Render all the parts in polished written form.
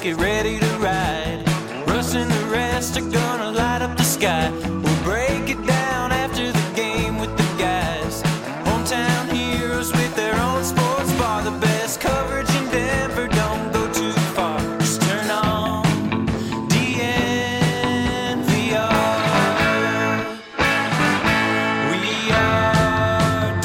get ready to ride. Russ and the rest are gonna light up the sky. We'll break it down after the game with the guys. Hometown heroes with their own sports bar. The best coverage in Denver, don't go too far. Just turn on DNVR. We are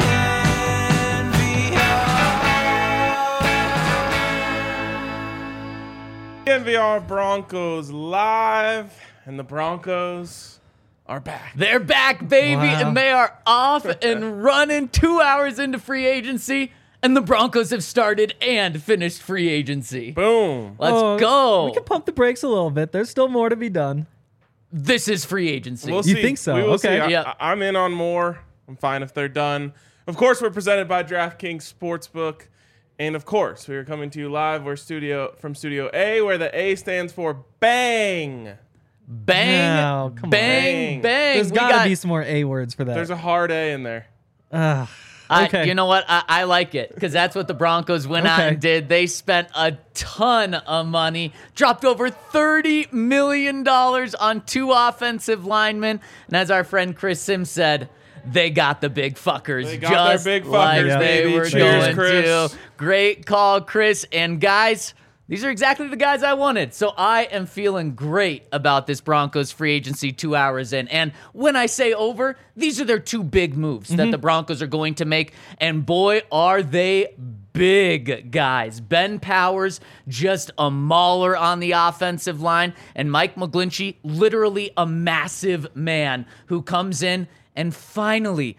DNVR. DNVR Broncos live, and the Broncos are back. They're back, baby, Wow. and they are off and running 2 hours into free agency, and the Broncos have started and finished free agency. Boom. Let's go. We can pump the brakes a little bit. There's still more to be done. This is free agency. We'll You see. think so? We will Okay. see. Yeah. I'm in on more. I'm fine if they're done. Of course, we're presented by DraftKings Sportsbook. And of course, we are coming to you live. We're from Studio A, where the A stands for Bang. Bang, No, come on. bang, bang. There's We got to got- be some more A words for that. There's a hard A in there. Okay. You know what? I like it because that's what the Broncos went out Okay. and did. They spent a ton of money, dropped over $30 million on 2 offensive linemen. And as our friend Chris Sims said, they got the big fuckers. They got their just big like fuckers, they baby. were Cheers, going Chris. to. Great call, Chris. And guys, these are exactly the guys I wanted. So I am feeling great about this Broncos free agency 2 hours in. And when I say over, these are their 2 big moves that the Broncos are going to make. And boy, are they big guys. Ben Powers, just a mauler on the offensive line. And Mike McGlinchey, literally a massive man who comes in and finally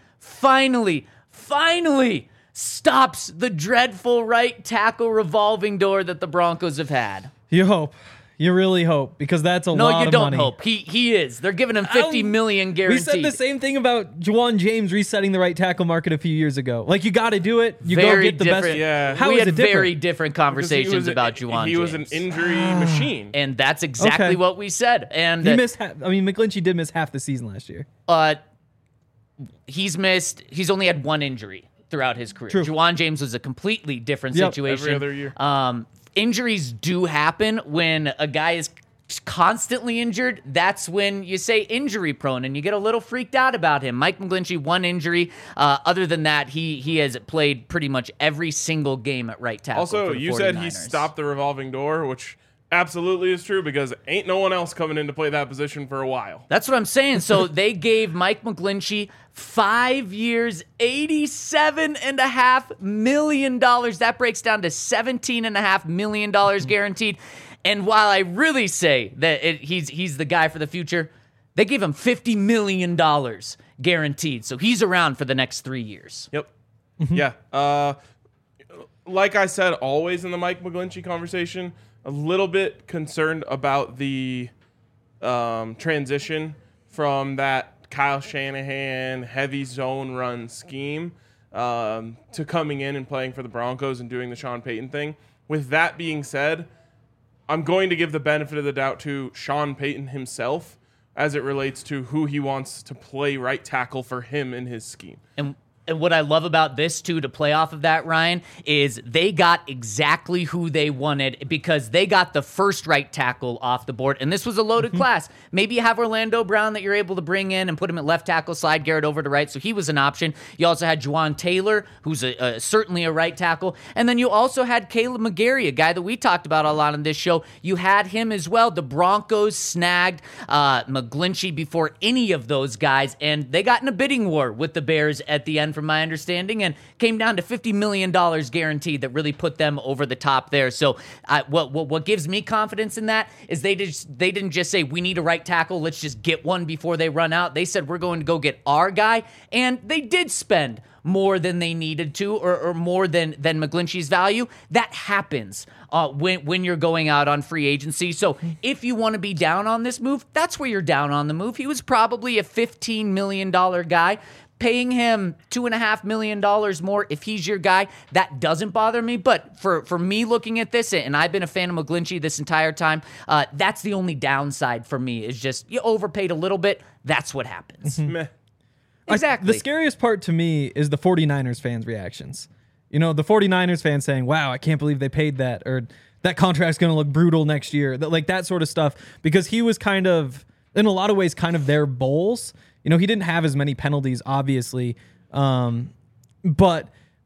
stops the dreadful right tackle revolving door that the Broncos have had. You hope. You really hope, because that's a lot No, you of don't money. hope. He is. They're giving him $50 million We guaranteed. said the same thing about Juwan James resetting the right tackle market a few years ago. Like, you got to do it. You Very go get the best. different. Yeah. How we is had it different? very different conversations about Juwan James. He was an injury machine. And that's exactly Okay. what we said. And He missed. McGlinchey did miss half the season last year. he's only had 1 injury throughout his career. True. Juwan James was a completely different Yep. situation. Every other year. Injuries do happen when a guy is constantly injured. That's when you say injury prone and you get a little freaked out about him. Mike McGlinchey, 1 injury. Other than that, he has played pretty much every single game at right tackle. Also, for the you said he 49ers. stopped the revolving door, which absolutely is true because ain't no one else coming in to play that position for a while. That's what I'm saying. So they gave Mike McGlinchey 5 years, $87.5 million. That breaks down to $17.5 million guaranteed. And while I really say that he's the guy for the future, they gave him $50 million guaranteed. So he's around for the next 3 years. Yep. Yeah. Like I said, always in the Mike McGlinchey conversation, a little bit concerned about the transition from that Kyle Shanahan heavy zone run scheme to coming in and playing for the Broncos and doing the Sean Payton thing. With that being said, I'm going to give the benefit of the doubt to Sean Payton himself as it relates to who he wants to play right tackle for him in his scheme. And what I love about this, too, to play off of that, Ryan, is they got exactly who they wanted because they got the first right tackle off the board. And this was a loaded class. Maybe you have Orlando Brown that you're able to bring in and put him at left tackle, slide Garrett over to right. So he was an option. You also had Juwan Taylor, who's certainly a right tackle. And then you also had Caleb McGarry, a guy that we talked about a lot on this show. You had him as well. The Broncos snagged McGlinchey before any of those guys. And they got in a bidding war with the Bears at the end, from my understanding, and came down to $50 million guaranteed that really put them over the top there. So what gives me confidence in that is they didn't just say, we need a right tackle, let's just get one before they run out. They said, we're going to go get our guy, and they did spend more than they needed to, or more than McGlinchey's value. That happens when you're going out on free agency. So if you want to be down on this move, that's where you're down on the move. He was probably a $15 million guy. Paying him $2.5 million more if he's your guy, that doesn't bother me. But for me looking at this, and I've been a fan of McGlinchey this entire time, that's the only downside for me, is just you overpaid a little bit. That's what happens. Meh. Exactly. The scariest part to me is the 49ers fans' reactions. You know, the 49ers fans saying, wow, I can't believe they paid that, or that contract's going to look brutal next year. Like that sort of stuff, because he was kind of, in a lot of ways, kind of their Bowles. You know, he didn't have as many penalties, obviously. But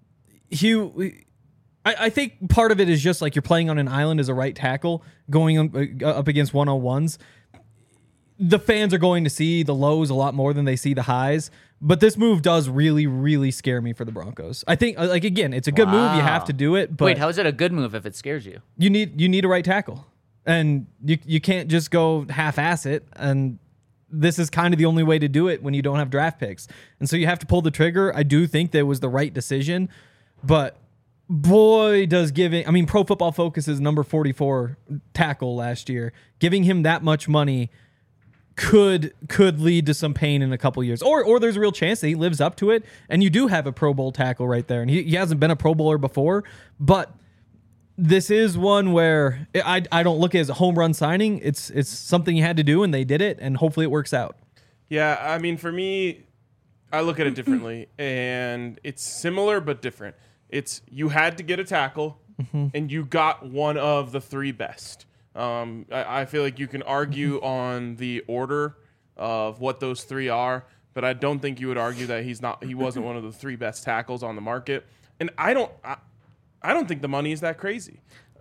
I think part of it is just like you're playing on an island as a right tackle, going up against 101s. The fans are going to see the lows a lot more than they see the highs. But this move does really, really scare me for the Broncos. I think, like, again, it's a good move. You have to do it. But wait, how is it a good move if it scares you? You need a right tackle. And you can't just go half-ass it. And this is kind of the only way to do it when you don't have draft picks. And so you have to pull the trigger. I do think that it was the right decision. But boy, does giving... I mean, Pro Football Focus's number 44 tackle last year, giving him that much money could lead to some pain in a couple years. Or there's a real chance that he lives up to it, and you do have a Pro Bowl tackle right there. And he hasn't been a Pro Bowler before, but this is one where I don't look at it as a home run signing. It's something you had to do, and they did it, and hopefully it works out. Yeah, I mean, for me, I look at it differently, and it's similar but different. It's you had to get a tackle, and you got one of the three best. I feel like you can argue on the order of what those three are, but I don't think you would argue that he wasn't one of the three best tackles on the market. And I don't think the money is that crazy.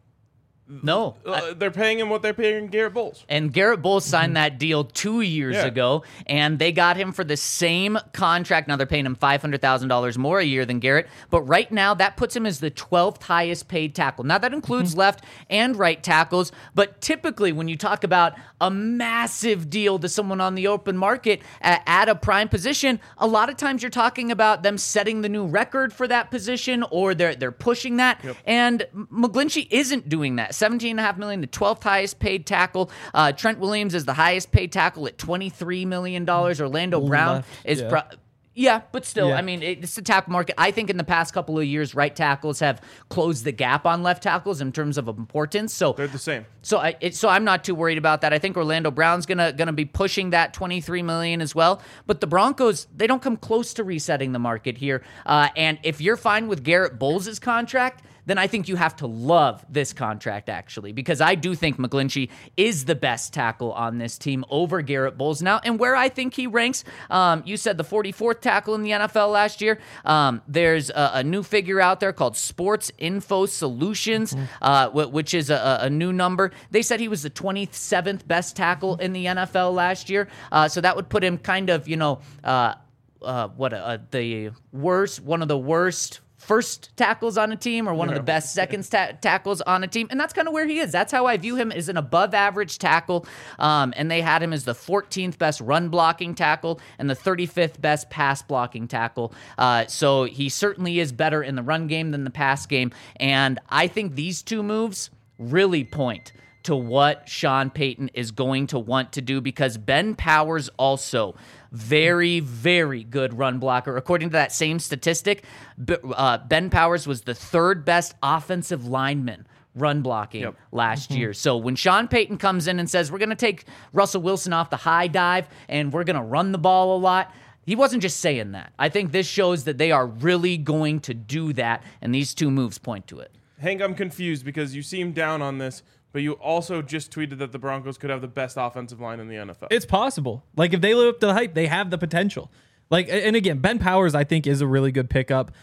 No. They're paying him what they're paying Garrett Bowles. And Garrett Bowles signed that deal 2 years ago, and they got him for the same contract. Now they're paying him $500,000 more a year than Garrett, but right now that puts him as the 12th highest paid tackle. Now that includes left and right tackles, but typically when you talk about a massive deal to someone on the open market at a prime position, a lot of times you're talking about them setting the new record for that position, or they're pushing that. Yep. And McGlinchey isn't doing that. $17.5 million, the 12th highest paid tackle. Trent Williams is the highest paid tackle at $23 million. Orlando Brown is... but still, I mean, it's the tackle market. I think in the past couple of years, right tackles have closed the gap on left tackles in terms of importance. So they're the same. So I'm not too worried about that. I think Orlando Brown's gonna be pushing that $23 million as well. But the Broncos, they don't come close to resetting the market here. And if you're fine with Garrett Bowles' contract, then I think you have to love this contract, actually, because I do think McGlinchey is the best tackle on this team over Garrett Bowles now. And where I think he ranks, you said the 44th tackle in the NFL last year. There's a new figure out there called Sports Info Solutions, which is a new number. They said he was the 27th best tackle in the NFL last year. So that would put him kind of, one of the worst first tackles on a team, or one of the best second tackles on a team. And that's kind of where he is. That's how I view him, as an above average tackle. And they had him as the 14th best run blocking tackle and the 35th best pass blocking tackle. So he certainly is better in the run game than the pass game. And I think these two moves really point to what Sean Payton is going to want to do, because Ben Powers also very, very good run blocker. According to that same statistic, Ben Powers was the third best offensive lineman run blocking last year. So when Sean Payton comes in and says, we're going to take Russell Wilson off the high dive and we're going to run the ball a lot, he wasn't just saying that. I think this shows that they are really going to do that, and these two moves point to it. Hank, I'm confused because you seem down on this, but you also just tweeted that the Broncos could have the best offensive line in the NFL. It's possible. Like, if they live up to the hype, they have the potential. Like, and again, Ben Powers, I think, is a really good pickup.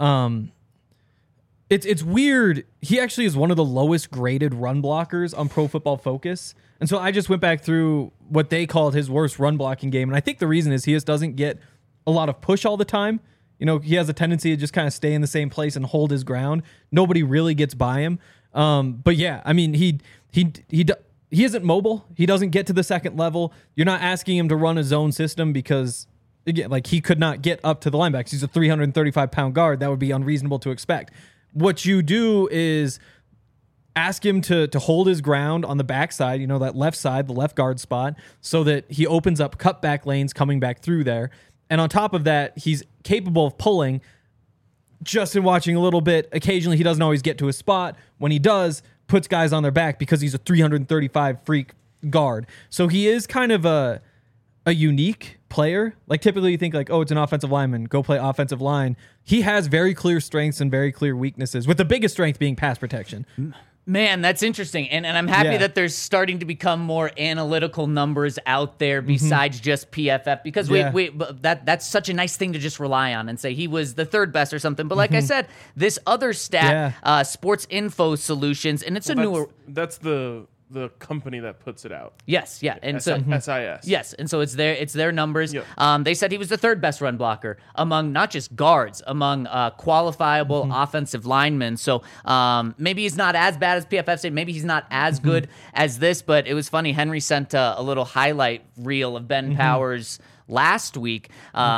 It's weird. He actually is one of the lowest graded run blockers on Pro Football Focus. And so I just went back through what they called his worst run blocking game. And I think the reason is he just doesn't get a lot of push all the time. You know, he has a tendency to just kind of stay in the same place and hold his ground. Nobody really gets by him. But yeah, I mean, he isn't mobile. He doesn't get to the second level. You're not asking him to run a zone system because, again, like, he could not get up to the linebacks. He's a 335-pound guard. That would be unreasonable to expect. What you do is ask him to hold his ground on the backside, you know, that left side, the left guard spot, so that he opens up cutback lanes coming back through there. And on top of that, he's capable of pulling. Just in watching a little bit, occasionally he doesn't always get to his spot. When he does, puts guys on their back because he's a 335 freak guard. So he is kind of a unique player. Like typically you think like, oh, it's an offensive lineman, go play offensive line. He has very clear strengths and very clear weaknesses, with the biggest strength being pass protection. Man, that's interesting. And I'm happy that there's starting to become more analytical numbers out there besides just PFF, because that's such a nice thing to just rely on and say he was the third best or something. But like I said, this other stat, Sports Info Solutions, and it's newer. That's the company that puts it out. Yes, yeah. And so SIS. Yes, and so it's their numbers. Yep. They said he was the third best run blocker among not just guards, among qualifiable offensive linemen. So maybe he's not as bad as PFF said. Maybe he's not as good as this, but it was funny. Henry sent a little highlight reel of Ben Powers last week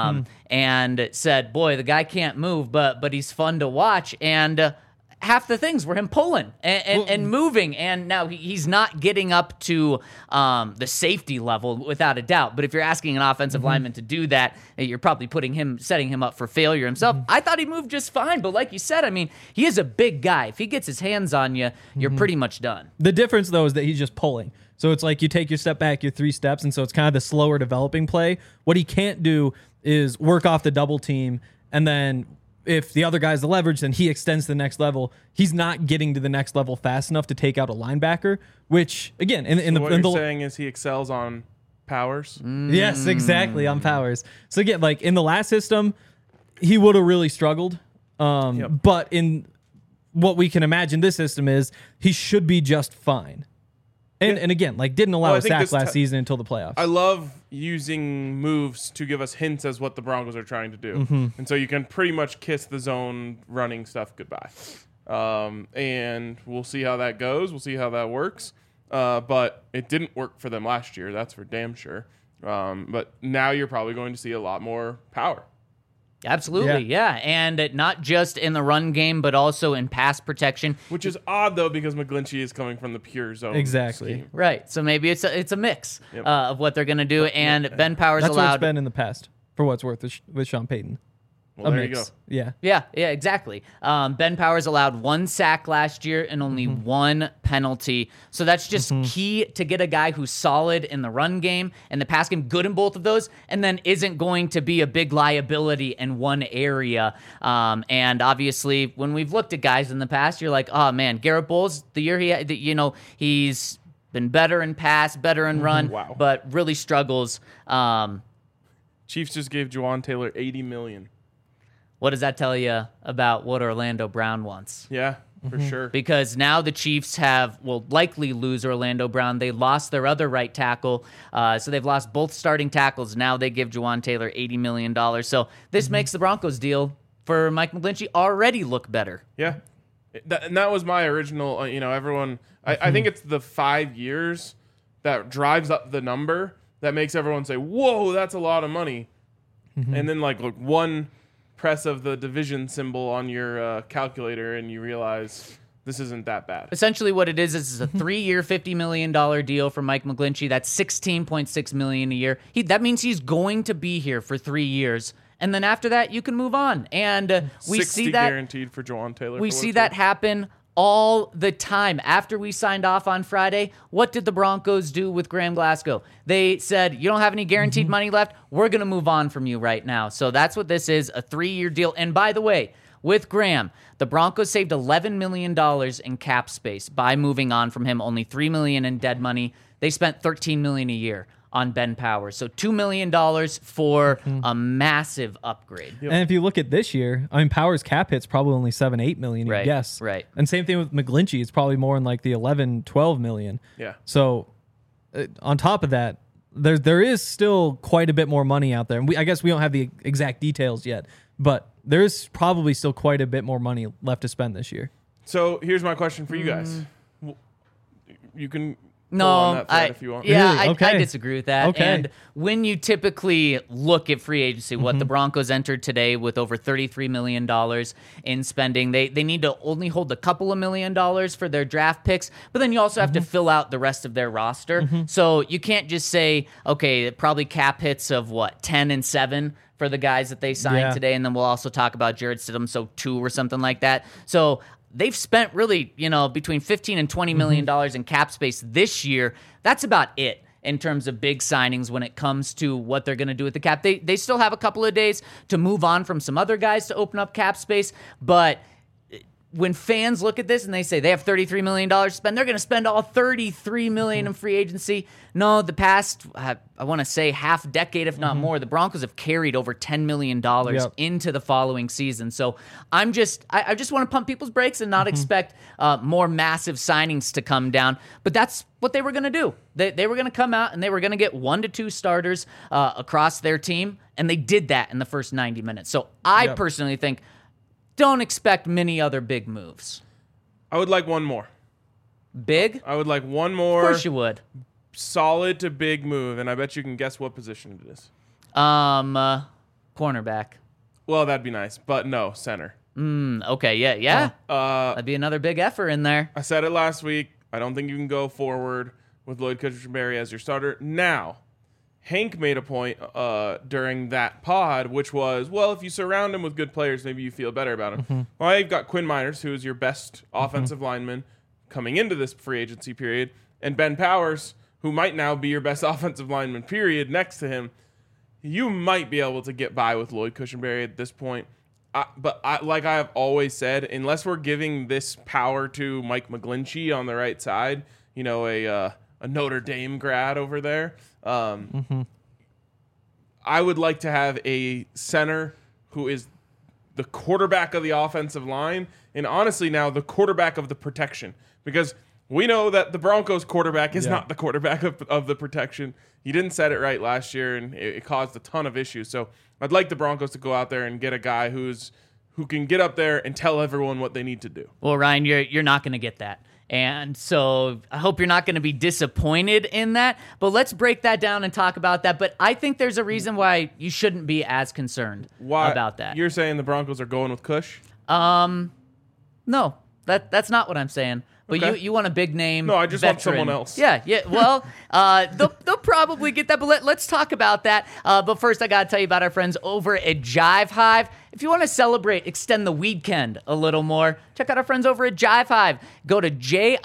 and said, boy, the guy can't move, but he's fun to watch. And half the things were him pulling and moving, and now he's not getting up to the safety level without a doubt. But if you're asking an offensive lineman to do that, you're probably setting him up for failure himself. I thought he moved just fine, but like you said, I mean, he is a big guy. If he gets his hands on you, you're pretty much done. The difference though is that he's just pulling. So it's like you take your step back, your 3 steps, and so it's kind of the slower developing play. What he can't do is work off the double team, and then if the other guy's the leverage, then he extends to the next level. He's not getting to the next level fast enough to take out a linebacker, which, again, what you're saying is he excels on powers? Yes, exactly, on powers. So again, like in the last system, he would have really struggled. But in what we can imagine this system is, he should be just fine. And again, like didn't allow a sack last season until the playoffs. I love using moves to give us hints as what the Broncos are trying to do. And so you can pretty much kiss the zone running stuff goodbye. And we'll see how that goes. We'll see how that works. But it didn't work for them last year. That's for damn sure. But now you're probably going to see a lot more power. Absolutely, yeah. And not just in the run game, but also in pass protection. Which is odd, though, because McGlinchey is coming from the pure zone scheme. Right, so maybe it's a mix of what they're going to do. And Ben Powers That's allowed... what it's been in the past, for what's worth, with Sean Payton. Well, there you go. Yeah, exactly. Ben Powers allowed 1 sack last year and only 1 penalty. So that's just key to get a guy who's solid in the run game and the pass game, good in both of those, and then isn't going to be a big liability in one area. And obviously, when we've looked at guys in the past, you're like, oh man, Garrett Bowles, the year he's been better in pass, better in run, but really struggles. Chiefs just gave Juwan Taylor $80 million. What does that tell you about what Orlando Brown wants? Yeah, for sure. Because now the Chiefs will likely lose Orlando Brown. They lost their other right tackle, so they've lost both starting tackles. Now they give Juwan Taylor $80 million. So this makes the Broncos deal for Mike McGlinchey already look better. Yeah. And that was my original, everyone, I think it's the 5 years that drives up the number that makes everyone say, whoa, that's a lot of money. And then look, one press of the division symbol on your calculator and you realize this isn't that bad. Essentially what it is a 3-year, $50 million deal for Mike McGlinchey. That's $16.6 million a year. That means he's going to be here for 3 years. And then after that, you can move on. And we see that guaranteed for Juwan Taylor. We see that happen all the time. After we signed off on Friday, what did the Broncos do with Graham Glasgow? They said, you don't have any guaranteed money left. We're going to move on from you right now. So that's what this is, a 3-year deal. And by the way, with Graham, the Broncos saved $11 million in cap space by moving on from him. Only $3 million in dead money. They spent $13 million a year on Ben Powers. So $2 million for a massive upgrade. And if you look at this year, Powers' cap hit's probably only $7-8 million, I guess. Right. And same thing with McGlinchey. It's probably more in like the $11-12 million. Yeah. So on top of that, there is still quite a bit more money out there. And I guess we don't have the exact details yet, but there is probably still quite a bit more money left to spend this year. So here's my question for you guys. You can... No, if you want. Yeah, Really? Okay. I disagree with that. Okay. And when you typically look at free agency, what the Broncos entered today with over $33 million in spending, they need to only hold a couple of $1 million for their draft picks, but then you also have to fill out the rest of their roster. So you can't just say, okay, probably cap hits of 10 and 7 for the guys that they signed today, and then we'll also talk about Jared Stidham, so 2 or something like that. So they've spent really, between $15 and $20 million in cap space this year. That's about it. in terms of big signings when it comes to what they're going to do with the cap. They still have a couple of days to move on from some other guys to open up cap space, but when fans look at this and they say they have $33 million to spend, they're going to spend all $33 million in free agency. No, the past, I want to say half decade, if not more, the Broncos have carried over $10 million into the following season. So I just want to pump people's brakes and not expect more massive signings to come down. But that's what they were going to do. They were going to come out and they were going to get 1 to 2 starters across their team, and they did that in the first 90 minutes. So I personally think, don't expect many other big moves. I would like one more. Big? I would like one more. Of course you would. Solid to big move, and I bet you can guess what position it is. Cornerback. Well, that'd be nice, but no, center. Okay, yeah. That'd be another big effort in there. I said it last week. I don't think you can go forward with Lloyd Cushenberry as your starter. Now, Hank made a point during that pod, which was, well, if you surround him with good players, maybe you feel better about him. Well, you've got Quinn Miners, who is your best offensive lineman coming into this free agency period, and Ben Powers, who might now be your best offensive lineman, period, next to him. You might be able to get by with Lloyd Cushenberry at this point. But like I have always said, unless we're giving this power to Mike McGlinchey on the right side, a Notre Dame grad over there, I would like to have a center who is the quarterback of the offensive line, and honestly now the quarterback of the protection, because we know that the Broncos quarterback is not the quarterback of the protection. He didn't set it right last year, and it caused a ton of issues. So I'd like the Broncos to go out there and get a guy who can get up there and tell everyone what they need to do. Well, Ryan, you're not going to get that. And so I hope you're not going to be disappointed in that. But let's break that down and talk about that. But I think there's a reason why you shouldn't be as concerned about that. You're saying the Broncos are going with Cush? No, that's not what I'm saying. But Okay. you want a big name. No, I just want someone else. Yeah. Well, they'll probably get that. But let's talk about that. But first, I got to tell you about our friends over at Jive Hive. If you want to celebrate, extend the weekend a little more, check out our friends over at Jive Hive. Go to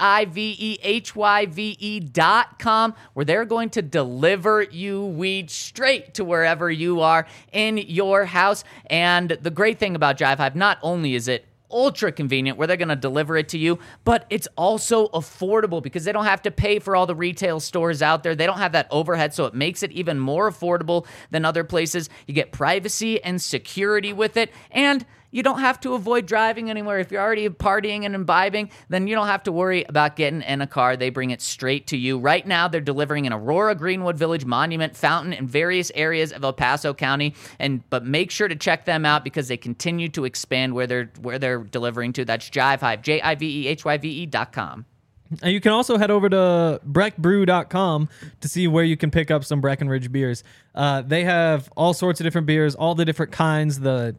JIVEHYVE.com, where they're going to deliver you weed straight to wherever you are in your house. And the great thing about Jive Hive, not only is it ultra convenient where they're going to deliver it to you, but it's also affordable because they don't have to pay for all the retail stores out there. They don't have that overhead, so it makes it even more affordable than other places. You get privacy and security with it, and you don't have to avoid driving anywhere. If you're already partying and imbibing, then you don't have to worry about getting in a car. They bring it straight to you. Right now, they're delivering in Aurora, Greenwood Village, Monument, Fountain, and various areas of El Paso County. But make sure to check them out because they continue to expand where they're delivering to. That's Jive Hive, JIVEHYVE.com. And you can also head over to breckbrew.com to see where you can pick up some Breckenridge beers. They have all sorts of different beers, all the different kinds, the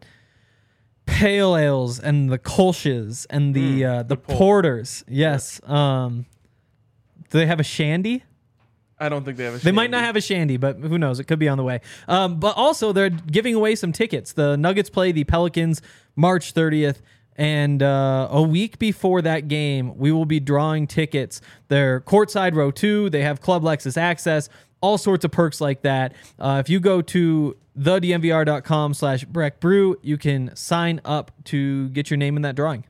pale ales and the kolsches and the porters. Yes. Do they have a shandy? I don't think they have a shandy. They might not have a shandy, but who knows? It could be on the way. But also, they're giving away some tickets. The Nuggets play the Pelicans March 30th. And a week before that game, we will be drawing tickets. They're courtside row 2. They have Club Lexus access, all sorts of perks like that. If you go to thedmvr.com/breckbrew, you can sign up to get your name in that drawing.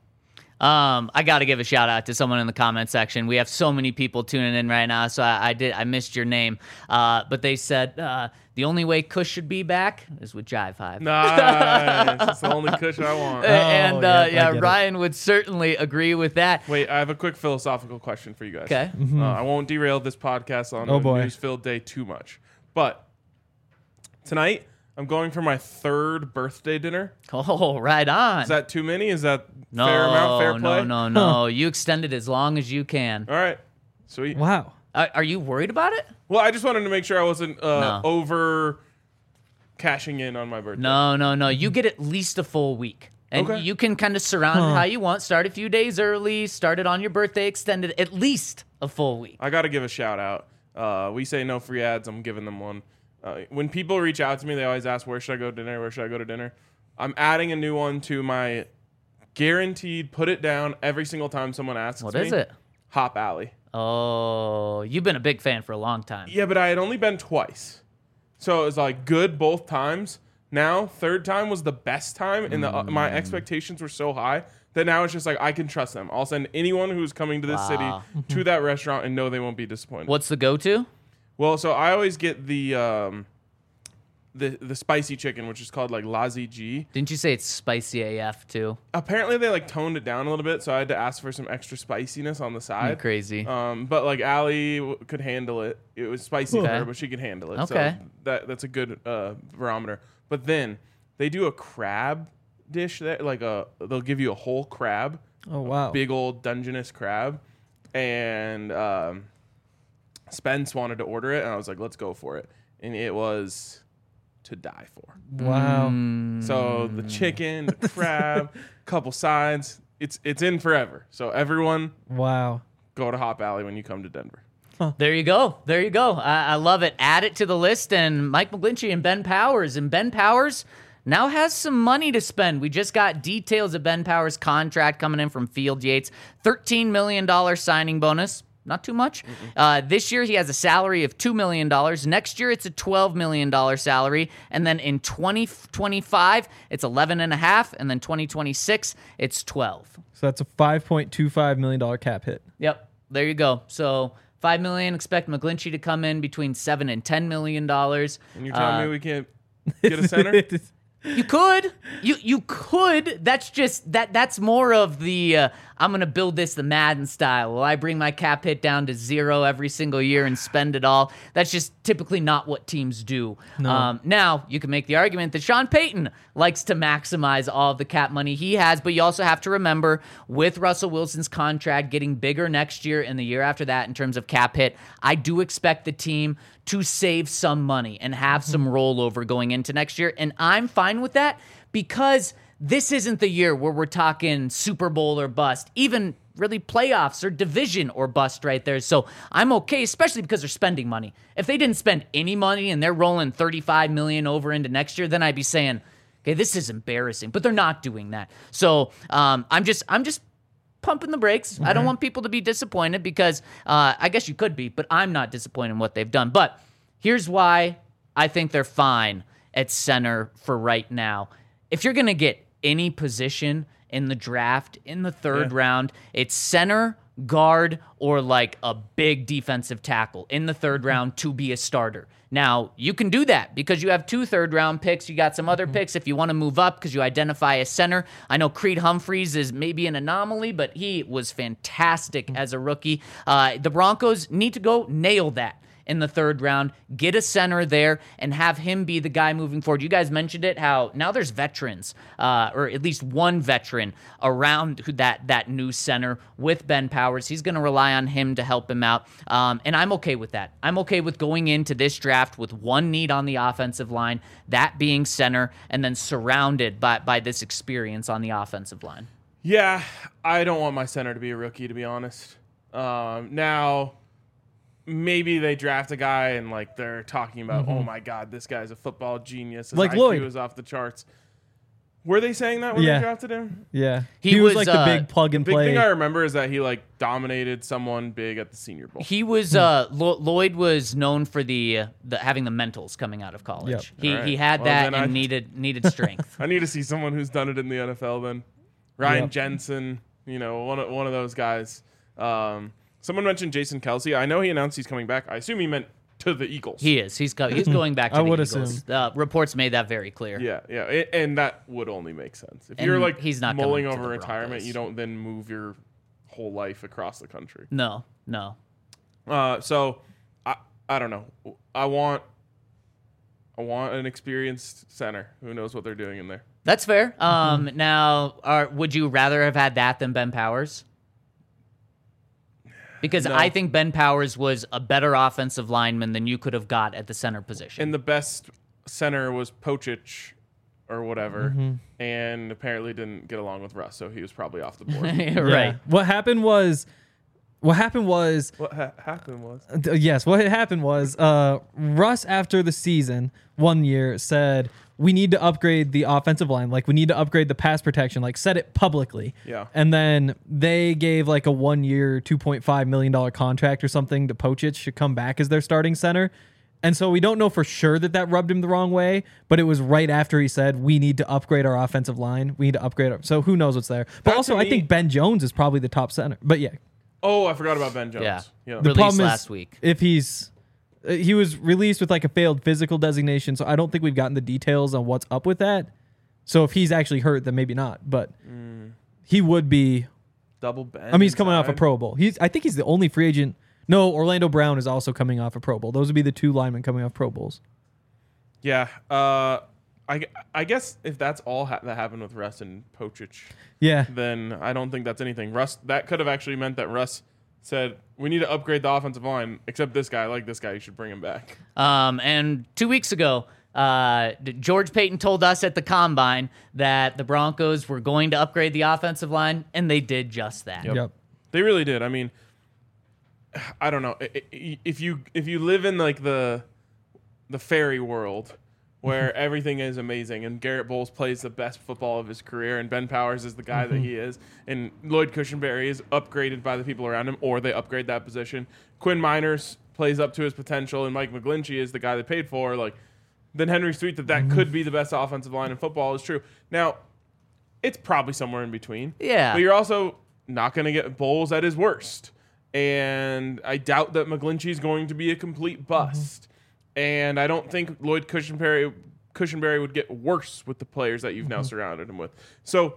I got to give a shout out to someone in the comment section. We have so many people tuning in right now, so I missed your name. But they said the only way Kush should be back is with Jive Hive. Nice. That's the only Kush I want. And Ryan would certainly agree with that. Wait, I have a quick philosophical question for you guys. Okay. I won't derail this podcast on a news-filled day too much. But tonight, I'm going for my 3rd birthday dinner. Oh, right on. Is that too many? Is that fair amount, fair play? No. Huh. You extend it as long as you can. All right. Sweet. Wow. Are you worried about it? Well, I just wanted to make sure I wasn't over cashing in on my birthday. No. You get at least a full week. And you can kind of surround it how you want. Start a few days early. Start it on your birthday. Extend it at least a full week. I got to give a shout out. We say no free ads. I'm giving them one. When people reach out to me, they always ask, where should I go to dinner? Where should I go to dinner? I'm adding a new one to my guaranteed put it down every single time someone asks me. What is it? Hop Alley. Oh, you've been a big fan for a long time. Yeah, but I had only been twice. So it was like good both times. Now, third time was the best time, and my expectations were so high that now it's just like I can trust them. I'll send anyone who's coming to this city to that restaurant and know they won't be disappointed. What's the go-to? Well, so I always get the spicy chicken, which is called like Lazi G. Didn't you say it's spicy AF too? Apparently they like toned it down a little bit, so I had to ask for some extra spiciness on the side. You're crazy. But like Allie could handle it. It was spicy for her, but she could handle it. Okay. So that's a good barometer. But then they do a crab dish there, they'll give you a whole crab, Oh, wow. big old Dungeness crab, and Spence wanted to order it, and I was like, let's go for it, and it was to die for. Wow. So the chicken, the crab, couple sides, it's in forever. So everyone, Wow. go to Hop Alley when you come to Denver. There you go. There you go. I love it. Add it to the list. And Mike McGlinchey and Ben Powers. And Ben Powers now has some money to spend. We just got details of Ben Powers' contract coming in from Field Yates. $13 million signing bonus. Not too much. This year, he has a salary of $2 million. Next year, it's a $12 million salary. And then in 2025, it's $11.5. And then 2026, it's $12. So that's a $5.25 million cap hit. Yep. There you go. So $5 million. Expect McGlinchey to come in between $7 and $10 million. And you're telling me we can't get a center? You could. You could. That's just that's more of the I'm going to build this the Madden style. Will I bring my cap hit down to 0 every single year and spend it all? That's just typically not what teams do. No. Now, you can make the argument that Sean Payton likes to maximize all of the cap money he has, but you also have to remember with Russell Wilson's contract getting bigger next year and the year after that in terms of cap hit, I do expect the team to save some money and have some rollover going into next year. And I'm fine with that because this isn't the year where we're talking Super Bowl or bust, even really playoffs or division or bust right there. So I'm okay, especially because they're spending money. If they didn't spend any money and they're rolling $35 million over into next year, then I'd be saying, okay, this is embarrassing. But they're not doing that. So I'm just pumping the brakes. I don't want people to be disappointed because I guess you could be, but I'm not disappointed in what they've done. But here's why I think they're fine at center for right now. If you're going to get any position in the draft in the third round, it's center, guard, or like a big defensive tackle in the third round to be a starter. Now, you can do that because you have 2 third-round picks. You got some other picks if you want to move up because you identify a center. I know Creed Humphreys is maybe an anomaly, but he was fantastic as a rookie. The Broncos need to go nail that in the third round, get a center there, and have him be the guy moving forward. You guys mentioned it, how now there's veterans, or at least one veteran around that new center with Ben Powers. He's going to rely on him to help him out, and I'm okay with that. I'm okay with going into this draft with one need on the offensive line, that being center, and then surrounded by this experience on the offensive line. Yeah, I don't want my center to be a rookie, to be honest. Now, maybe they draft a guy and like they're talking about, oh my God, this guy's a football genius. His Like IQ Lloyd. is off the charts. Were they saying that when they drafted him? Yeah. He was was, like the big plug and Big play. thing I remember is that he like dominated someone big at the Senior Bowl. He was Lloyd was known for the having the mentals coming out of college. Yep. He All right. he had Well, that then and I- needed strength. I need to see someone who's done it in the NFL then. Ryan Yep. Jensen, one of those guys. Someone mentioned Jason Kelsey. I know he announced he's coming back. I assume he meant to the Eagles. He is. He's going back to I the would Eagles. Reports made that very clear. Yeah. And that would only make sense. If And you're like he's not mulling coming to over the retirement, Broncos. you don't then move your whole life across the country. No. So I don't know. I want an experienced center who knows what they're doing in there. That's fair. Now, would you rather have had that than Ben Powers? Because No. I think Ben Powers was a better offensive lineman than you could have got at the center position. And the best center was Pochich or whatever, and apparently didn't get along with Russ, so he was probably off the board. Yeah. Right. What happened was What happened was yes, what had happened was Russ, after the season, one year said, we need to upgrade the offensive line. Like, we need to upgrade the pass protection. Like, said it publicly. Yeah. And then they gave like a 1 year, $2.5 million contract or something to Pochich to come back as their starting center. And so we don't know for sure that rubbed him the wrong way, but it was right after he said, we need to upgrade our offensive line. We need to upgrade so who knows what's there. But That also, to me- I think Ben Jones is probably the top center. But yeah. Oh, I forgot about Ben Jones. Yeah. Yeah. Released problem is, last week. if he was released with like a failed physical designation, so I don't think we've gotten the details on what's up with that. So if he's actually hurt, then maybe not. But he would be. Double Ben. I mean, he's coming off a inside. Pro Bowl. I think he's the only free agent. No, Orlando Brown is also coming off a Pro Bowl. Those would be the two linemen coming off Pro Bowls. Yeah. I guess if that's all that happened with Russ and Pochich, Yeah. then I don't think that's anything. Russ, that could have actually meant that Russ said, we need to upgrade the offensive line, except this guy, I like this guy, you should bring him back. And 2 weeks ago, George Payton told us at the Combine that the Broncos were going to upgrade the offensive line, and they did just that. Yep. They really did. I mean, I don't know. If you live in like the fairy world where everything is amazing and Garrett Bowles plays the best football of his career and Ben Powers is the guy that he is and Lloyd Cushenberry is upgraded by the people around him or they upgrade that position. Quinn Miners plays up to his potential and Mike McGlinchey is the guy they paid for. Like, then Henry's tweet that could be the best offensive line in football is true. Now, it's probably somewhere in between. Yeah. But you're also not going to get Bowles at his worst. And I doubt that McGlinchey is going to be a complete bust. And I don't think Lloyd Cushenberry would get worse with the players that you've now surrounded him with. So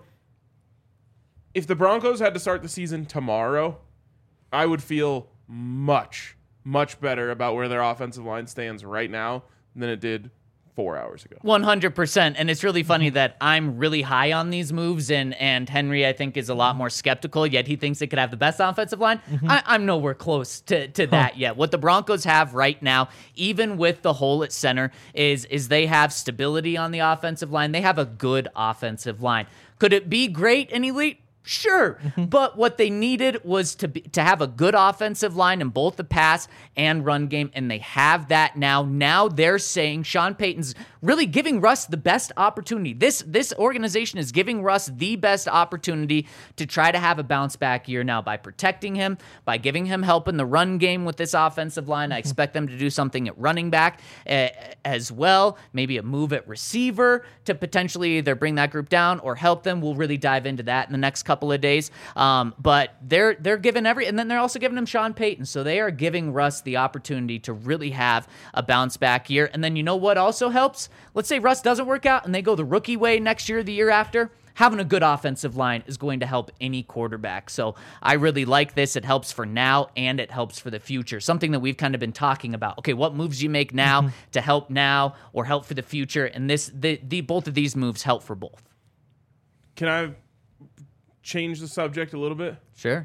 if the Broncos had to start the season tomorrow, I would feel much, much better about where their offensive line stands right now than it did 4 hours ago. 100%. And it's really funny that I'm really high on these moves, and Henry, I think, is a lot more skeptical, yet he thinks it could have the best offensive line. I'm nowhere close to that yet. What the Broncos have right now, even with the hole at center, is they have stability on the offensive line. They have a good offensive line. Could it be great and elite? Sure, but what they needed was to have a good offensive line in both the pass and run game, and they have that now. Now they're saying Sean Payton's really giving Russ the best opportunity. This organization is giving Russ the best opportunity to try to have a bounce back year now by protecting him, by giving him help in the run game with this offensive line. I expect them to do something at running back as well, maybe a move at receiver to potentially either bring that group down or help them. We'll really dive into that in the next couple of days. But they're giving and then they're also giving him Sean Payton. So they are giving Russ the opportunity to really have a bounce back year. And then you know what also helps? Let's say Russ doesn't work out and they go the rookie way next year, the year after. Having a good offensive line is going to help any quarterback. So I really like this. It helps for now and it helps for the future. Something that we've kind of been talking about. Okay, what moves you make now to help now or help for the future? And both of these moves help for both. Can I change the subject a little bit? Sure.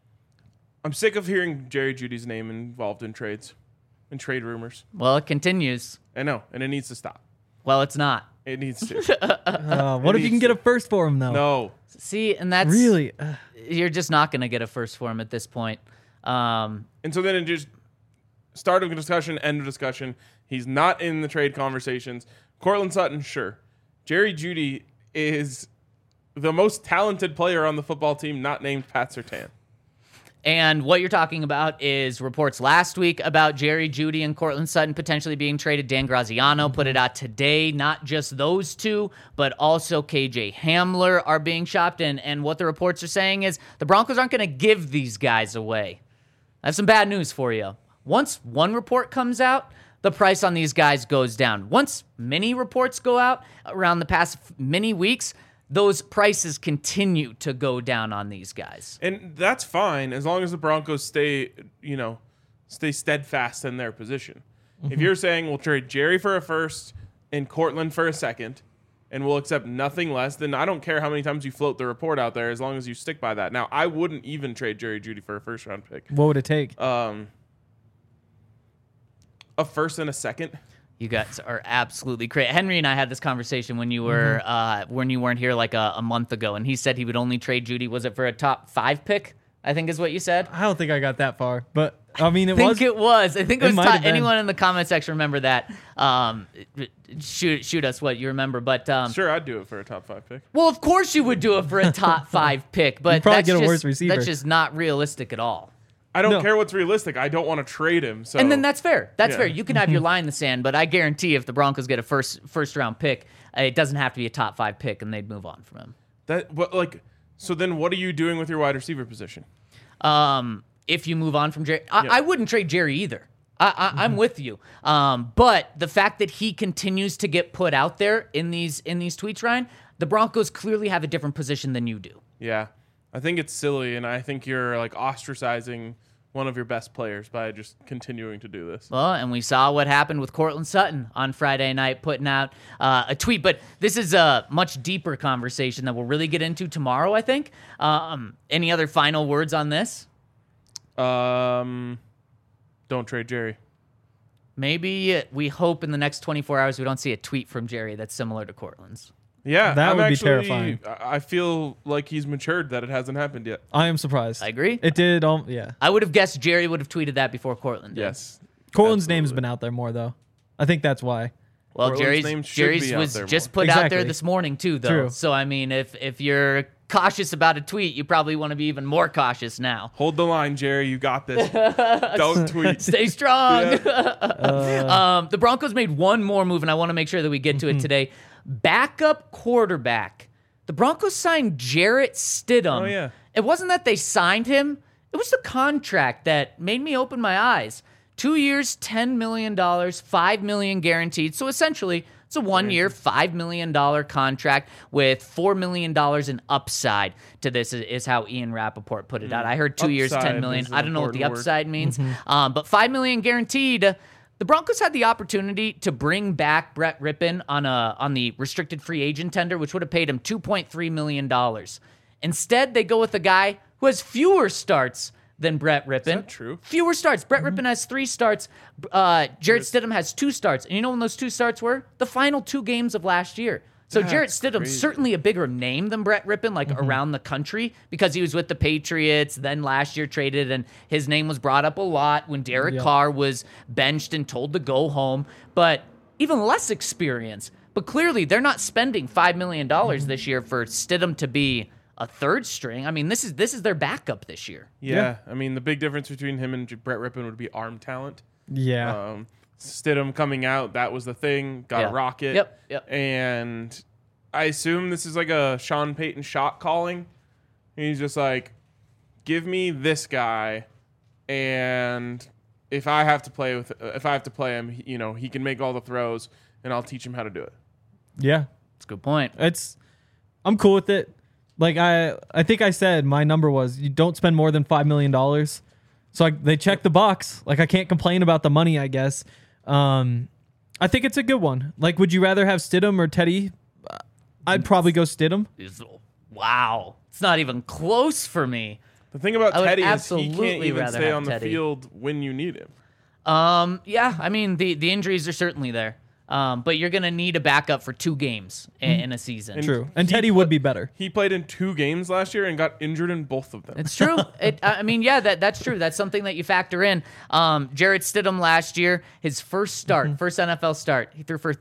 I'm sick of hearing Jerry Jeudy's name involved in trades and trade rumors. Well, it continues. I know, and it needs to stop. Well, it's not. It needs to. What if you can get a first for him, though? No. See, and that's Really? you're just not going to get a first for him at this point. And so then it just start of a discussion, end of discussion. He's not in the trade conversations. Cortland Sutton, sure. Jerry Jeudy is the most talented player on the football team, not named Pat Surtain. And what you're talking about is reports last week about Jerry Jeudy and Cortland Sutton potentially being traded. Dan Graziano put it out today. Not just those two, but also KJ Hamler are being shopped. And what the reports are saying is the Broncos aren't going to give these guys away. I have some bad news for you. Once one report comes out, the price on these guys goes down. Once many reports go out around the past many weeks, those prices continue to go down on these guys. And that's fine as long as the Broncos stay steadfast in their position. If you're saying we'll trade Jerry for a first and Cortland for a second and we'll accept nothing less, then I don't care how many times you float the report out there as long as you stick by that. Now, I wouldn't even trade Jerry Jeudy for a first round pick. What would it take? A first and a second. You guys are absolutely crazy. Henry and I had this conversation when you were when you weren't here like a month ago, and he said he would only trade Jeudy. Was it for a top 5 pick? I think is what you said. I don't think I got that far, but I mean, I think it was. I think it was might have been. anyone in the comment section remember that. Shoot us what you remember. But Sure, I'd do it for a top 5 pick. well, of course you would do it for a top 5 pick, but probably that's get a just, worse receiver. That's just not realistic at all. I don't No. care what's realistic. I don't want to trade him. So And then that's fair. That's Yeah. fair. You can have your line in the sand, but I guarantee if the Broncos get a first round pick, it doesn't have to be a top 5 pick, and they'd move on from him. So then what are you doing with your wide receiver position? If you move on from Jerry, I wouldn't trade Jerry either. I'm with you. But the fact that he continues to get put out there in these tweets, Ryan, the Broncos clearly have a different position than you do. Yeah. I think it's silly, and I think you're like ostracizing one of your best players by just continuing to do this. Well, and we saw what happened with Cortland Sutton on Friday night putting out a tweet. But this is a much deeper conversation that we'll really get into tomorrow, I think. Any other final words on this? Don't trade Jerry. Maybe we hope in the next 24 hours we don't see a tweet from Jerry that's similar to Cortland's. Yeah, That I'm would be actually, terrifying. I feel like he's matured that it hasn't happened yet. I am surprised. I agree. It did. Yeah. I would have guessed Jerry would have tweeted that before Cortland did. Yes. Cortland's Absolutely. name's been out there more though. I think that's why. Well, Portland's name Jerry's should be out was there just more. put out there Exactly. this morning too, though. True. So I mean, if you're cautious about a tweet, you probably want to be even more cautious now. Hold the line, Jerry. You got this. Don't tweet. Stay strong. Yeah. The Broncos made one more move, and I want to make sure that we get to it today. Backup quarterback. The Broncos signed Jarrett Stidham. Oh, yeah. It wasn't that they signed him. It was the contract that made me open my eyes. 2 years, $10 million, $5 million guaranteed. So essentially, it's a 1 year, $5 million contract with $4 million in upside to this, is how Ian Rappaport put it out. I heard 2 years, Upside $10 million. is an I don't know what the important word. upside means, but $5 million guaranteed. The Broncos had the opportunity to bring back Brett Rippon on the restricted free agent tender, which would have paid him $2.3 million. Instead, they go with a guy who has fewer starts than Brett Rippon. Is that true? Fewer starts. Brett Rippon has 3 starts. Jarrett Stidham has 2 starts. And you know when those 2 starts were? The final 2 games of last year. So Jarrett That's Stidham's crazy. certainly a bigger name than Brett Rippon, like around the country, because he was with the Patriots, then last year traded, and his name was brought up a lot when Derek Carr was benched and told to go home. But even less experience. But clearly, they're not spending $5 million this year for Stidham to be a 3rd string. I mean, this is their backup this year. Yeah. I mean, the big difference between him and Brett Rippon would be arm talent. Yeah. Stidham coming out, that was the thing. Got Yeah. a rocket. Yep. And I assume this is like a Sean Payton shot calling. He's just like, give me this guy, and if I have to play him, he can make all the throws, and I'll teach him how to do it. Yeah. That's a good point. I'm cool with it. Like I think I said my number was you don't spend more than $5 million. So they checked the box. Like I can't complain about the money, I guess. I think it's a good one. Like, would you rather have Stidham or Teddy? I'd probably go Stidham. Wow. It's not even close for me. The thing about I would Teddy is he absolutely can't even rather stay have on the Teddy. field when you need him. Yeah, I mean, the injuries are certainly there. But you're going to need a backup for 2 games in a season. True. And he Teddy would be better. He played in 2 games last year and got injured in both of them. It's true. I mean, yeah, that's true. That's something that you factor in. Jarrett Stidham last year, his first NFL start, he threw for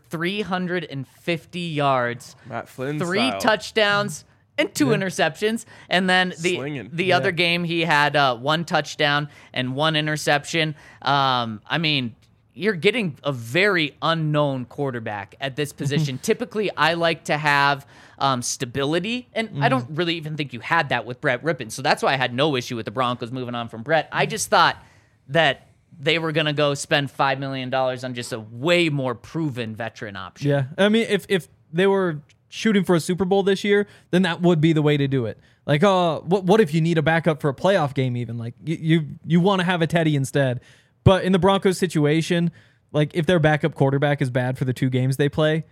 350 yards, Matt Flynn 3 style. touchdowns, and 2 interceptions. And then Slinging. the other game, he had 1 touchdown and 1 interception. I mean, you're getting a very unknown quarterback at this position. Typically, I like to have stability, and I don't really even think you had that with Brett Rippon. So that's why I had no issue with the Broncos moving on from Brett. I just thought that they were going to go spend $5 million on just a way more proven veteran option. Yeah. I mean, if they were shooting for a Super Bowl this year, then that would be the way to do it. Like, what if you need a backup for a playoff game even? Like, you want to have a Teddy instead. But in the Broncos situation, like if their backup quarterback is bad for the 2 games they play,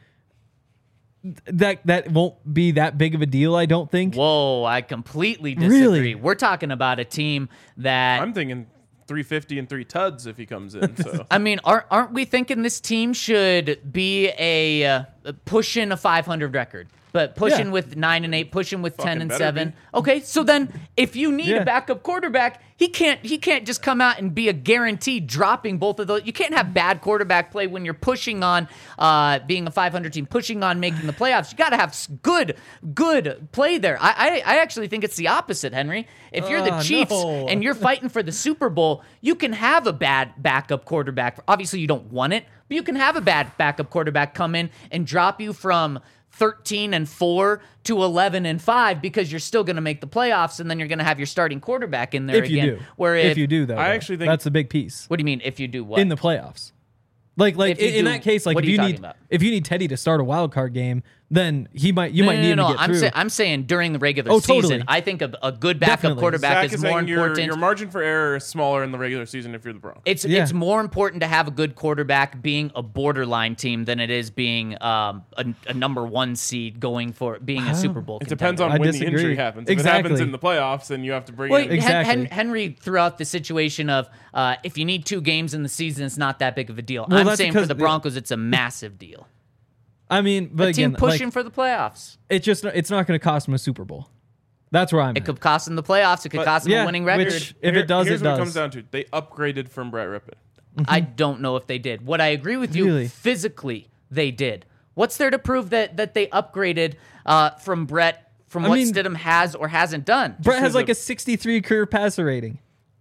that won't be that big of a deal, I don't think. Whoa, I completely disagree. Really? We're talking about a team that... I'm thinking 350 and 3 tuds if he comes in. So I mean, aren't we thinking this team should be a pushing a 500 record. But pushing Yeah. with 9-8, pushing with 10 Fucking and better 7. be. Okay, so then if you need Yeah. a backup quarterback, he can't just come out and be a guarantee dropping both of those. You can't have bad quarterback play when you're pushing on being a 500 team, pushing on making the playoffs. You got to have good play there. I actually think it's the opposite, Henry. If you're the Chiefs no. and you're fighting for the Super Bowl, you can have a bad backup quarterback. Obviously, you don't want it, but you can have a bad backup quarterback come in and drop you from 13-4 to 11-5 because you're still going to make the playoffs, and then you're going to have your starting quarterback in there If you again. do. Where If you do, though. I actually think- that's a big piece What do you mean if you do what? in the playoffs. Like If you in do- that case, like what if are you you talking need about? if you need Teddy to start a wild card game, then you might need him to get through. I'm saying during the regular Oh, season, totally. I think a good backup Definitely. quarterback Zach is more saying important. your margin for error is smaller in the regular season if you're the Broncos. It's more important to have a good quarterback being a borderline team than it is being a number 1 seed going for being a Super Bowl. It depends contender. on I when disagree. the injury happens. If it Exactly. happens in the playoffs, then you have to bring Well, in. Exactly. Henry threw out the situation of if you need 2 games in the season, it's not that big of a deal. Well, I'm that's saying for because the Broncos, it's a massive deal. I mean, but A team again, pushing like, for the playoffs. it's not going to cost him a Super Bowl. That's where I'm It at. could cost them the playoffs. It could cost them a winning record. Which, if it does, here's it what does. it comes down to. They upgraded from Brett Rippon. I don't know if they did. What I agree with you, Really? physically, they did. What's there to prove that they upgraded from Brett, from what mean, Stidham has or hasn't done? Brett has as like a- a 63 career passer rating.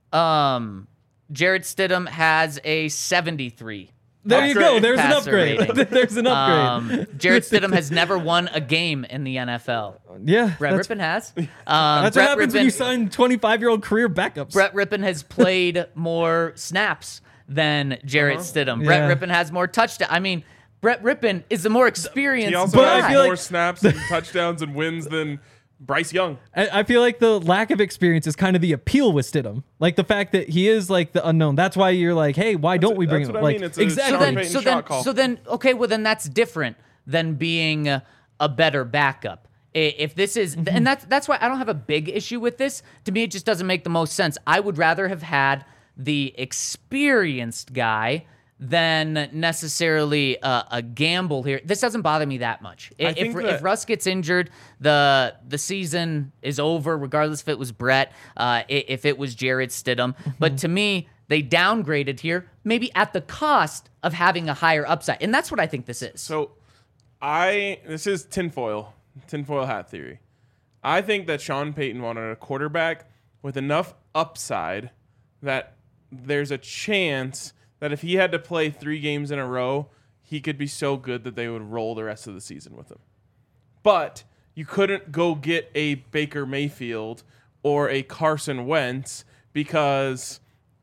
Jared Stidham has a 73. There you go. There's an passer upgrade. rating. There's an upgrade. Jared Stidham has never won a game in the NFL. Yeah. Brett that's Rippon has. that's Brett what happens when you Rippon- sign 25-year-old career backups. Brett Rippon has played more snaps than Jarrett Stidham. Brett Yeah. Rippon has more touchdowns. I mean, Brett Rippon is the more experienced He also But guy. I has feel more like- snaps and touchdowns and wins than Bryce Young. I feel like the lack of experience is kind of the appeal with Stidham. Like the fact that he is like the unknown. That's why you're like, hey, why don't we bring that's him? what I Like mean. It's a exactly. Sean Payton shot call. Okay, well then that's different than being a better backup. If this is, and that's why I don't have a big issue with this. To me, it just doesn't make the most sense. I would rather have had the experienced guy than necessarily a gamble here. This doesn't bother me that much. If Russ gets injured, the season is over, regardless if it was Brett, if it was Jared Stidham. But to me, they downgraded here, maybe at the cost of having a higher upside. And that's what I think this is. So this is tinfoil hat theory. I think that Sean Payton wanted a quarterback with enough upside that there's a chance that if he had to play 3 games in a row, he could be so good that they would roll the rest of the season with him. But you couldn't go get a Baker Mayfield or a Carson Wentz because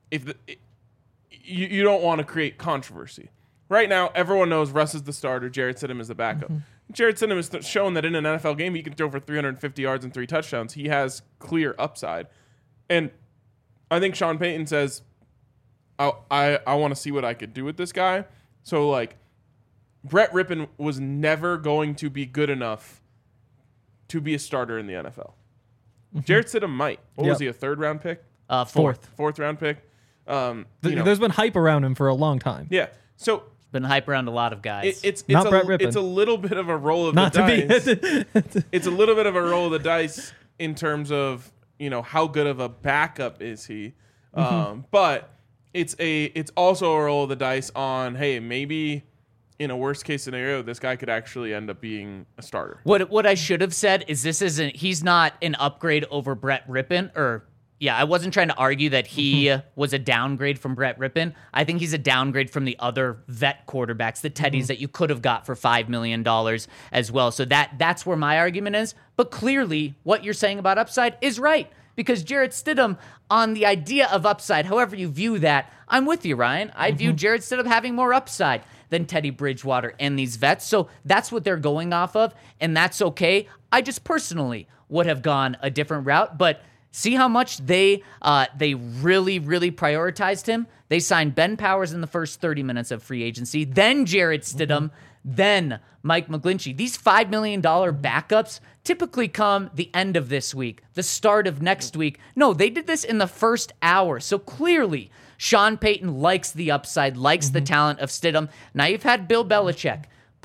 you don't want to create controversy. Right now, everyone knows Russ is the starter, Jarrett Stidham is the backup. Jarrett Stidham has shown that in an NFL game, he can throw for 350 yards and 3 touchdowns. He has clear upside. And I think Sean Payton says, I want to see what I could do with this guy. So, like, Brett Rippon was never going to be good enough to be a starter in the NFL. Jarrett Stidham might. What was he, a 3rd-round pick? Fourth. 4th-round pick? There's been hype around him for a long time. Yeah. So Been hype around a lot of guys. it's Not Brett Rippon. it's a little bit of a roll of Not the to dice. be. It's a little bit of a roll of the dice in terms of how good of a backup is he. But it's also a roll of the dice on, hey, maybe in a worst case scenario, this guy could actually end up being a starter. What I should have said is he's not an upgrade over Brett Rippon, I wasn't trying to argue that he was a downgrade from Brett Rippon. I think he's a downgrade from the other vet quarterbacks, the Teddys that you could have got for $5 million as well. So that's where my argument is. But clearly, what you're saying about upside is right. Because Jarrett Stidham, on the idea of upside, however you view that, I'm with you, Ryan. I view Jarrett Stidham having more upside than Teddy Bridgewater and these vets. So that's what they're going off of, and that's okay. I just personally would have gone a different route, but see how much they really, really prioritized him? They signed Ben Powers in the first 30 minutes of free agency, then Jarrett Stidham, then Mike McGlinchey. These $5 million backups typically come the end of this week, the start of next week. No, they did this in the first hour. So clearly, Sean Payton likes the upside, likes the talent of Stidham. Now you've had Bill Belichick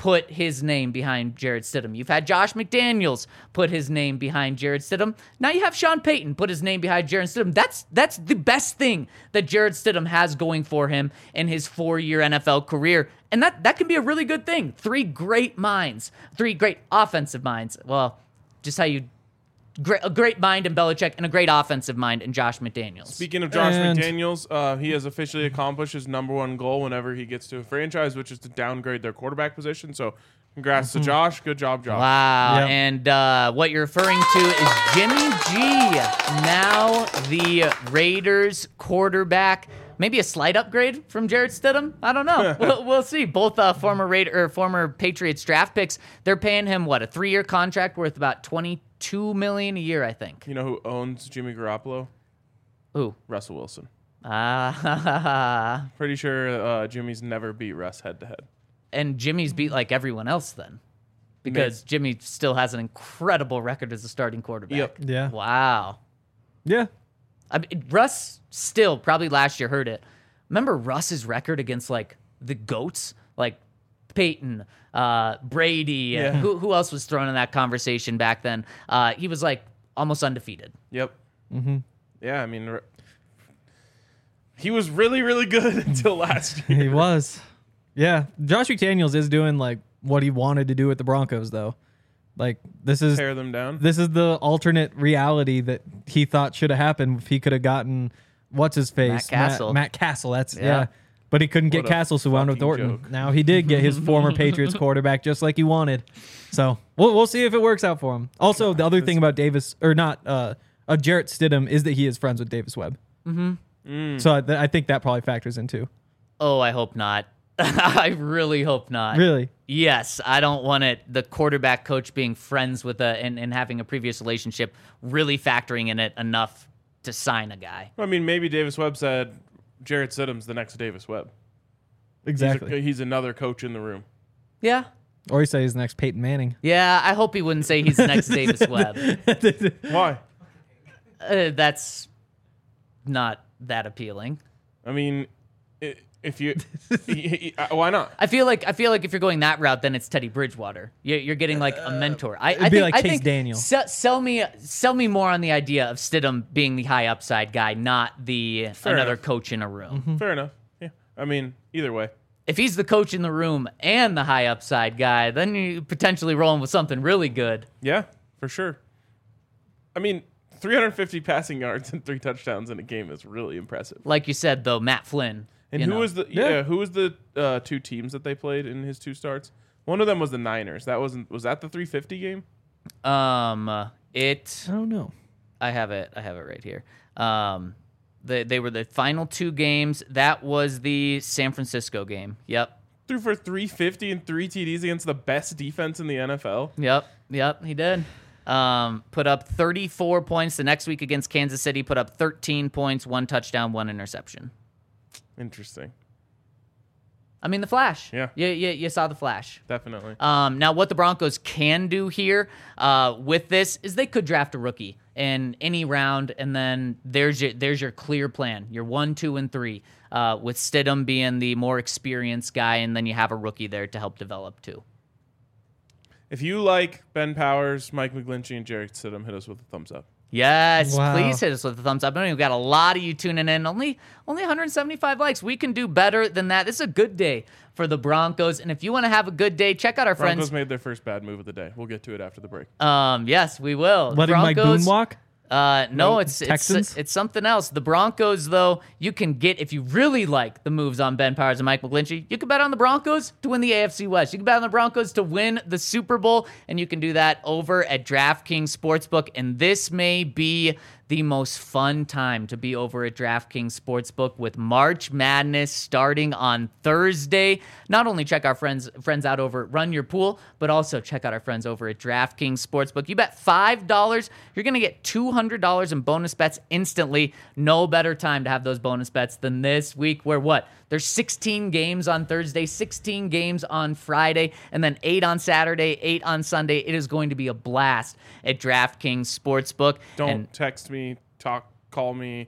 put his name behind Jarrett Stidham. You've had Josh McDaniels put his name behind Jarrett Stidham. Now you have Sean Payton put his name behind Jarrett Stidham. That's the best thing that Jarrett Stidham has going for him in his 4-year NFL career. And that can be a really good thing. 3 great minds, 3 great offensive minds. Well, just how you... a great mind in Belichick and a great offensive mind in Josh McDaniels. Speaking of Josh And- McDaniels, he has officially accomplished his number 1 goal whenever he gets to a franchise, which is to downgrade their quarterback position. So congrats to Josh. Good job, Josh. Wow. Yep. And what you're referring to is Jimmy G, now the Raiders quarterback. Maybe a slight upgrade from Jarrett Stidham. I don't know. We'll see. Both former Patriots draft picks. They're paying him what, a 3-year contract worth about $22 million a year, I think. You know who owns Jimmy Garoppolo? Ooh. Russell Wilson. Ah. Pretty sure Jimmy's never beat Russ head-to-head. And Jimmy's beat like everyone else then, because Jimmy still has an incredible record as a starting quarterback. Yep. Yeah. Wow. Yeah. I mean, Russ still probably last year heard it. Remember Russ's record against like the GOATs, like Peyton, Brady. Yeah. Who else was thrown in that conversation back then? He was like almost undefeated. Yep. Mm-hmm. Yeah, I mean, he was really, really good until last year. He was. Yeah. Josh McDaniels is doing like what he wanted to do with the Broncos, though. Like this is Tear them down. the alternate reality that he thought should have happened if he could have gotten what's his face Matt Castle. Matt Castle. That's Yeah. But he couldn't get What a Castle, so wound with fucking Thornton. joke. Now he did get his former Patriots quarterback just like he wanted. So we'll see if it works out for him. Also, the other thing about Jarrett Stidham is that he is friends with Davis Webb. Mm-hmm. So I think that probably factors in too. Oh, I hope not. I really hope not. Really? Yes, I don't want it. The quarterback coach being friends with and having a previous relationship really factoring in it enough to sign a guy. I mean, maybe Davis Webb said Jarrett Stidham's the next Davis Webb. Exactly. He's another coach in the room. Yeah. Or he says he's the next Peyton Manning. Yeah, I hope he wouldn't say he's the next Davis Webb. Why? That's not that appealing. I mean, if you, why not? I feel like if you're going that route, then it's Teddy Bridgewater. You're getting like a mentor. It'd be like Chase Daniel. Sell me more on the idea of Stidham being the high upside guy, not another enough. coach in a room. Mm-hmm. Fair enough. Yeah. I mean, either way. If he's the coach in the room and the high upside guy, then you potentially rolling with something really good. Yeah, for sure. I mean, 350 passing yards and 3 touchdowns in a game is really impressive. Like you said, though, Matt Flynn. And who was the 2 teams that they played in his 2 starts? One of them was the Niners. Was that the 350 game? I don't know. I have it right here. They were the final 2 games. That was the San Francisco game. Yep. Threw for 350 and 3 TDs against the best defense in the NFL. Yep, he did. Put up 34 points. The next week against Kansas City, put up 13 points, 1 touchdown, 1 interception. Interesting. I mean, the Flash. Yeah. You saw the Flash. Definitely. Now, what the Broncos can do here with this is they could draft a rookie in any round, and then there's your clear plan. Your 1, 2, and 3, with Stidham being the more experienced guy, and then you have a rookie there to help develop too. If you like Ben Powers, Mike McGlinchey, and Jarrett Stidham, hit us with a thumbs up. Yes, Wow. please hit us with a thumbs up. I know we've got a lot of you tuning in. Only 175 likes. We can do better than that. This is a good day for the Broncos. And if you want to have a good day, check out our Broncos friends. made their first bad move of the day. We'll get to it after the break. Yes, we will. Letting Mike Boone walk? No, it's Texans? it's something else. The Broncos, though, you can get, if you really like the moves on Ben Powers and Mike McGlinchey, you can bet on the Broncos to win the AFC West. You can bet on the Broncos to win the Super Bowl, and you can do that over at DraftKings Sportsbook. And this may be the most fun time to be over at DraftKings Sportsbook with March Madness starting on Thursday. Not only check our friends out over at Run Your Pool, but also check out our friends over at DraftKings Sportsbook. You bet $5, you're going to get $200 in bonus bets instantly. No better time to have those bonus bets than this week where there's 16 games on Thursday, 16 games on Friday, and then 8 on Saturday, 8 on Sunday. It is going to be a blast at DraftKings Sportsbook. Don't text me, call me,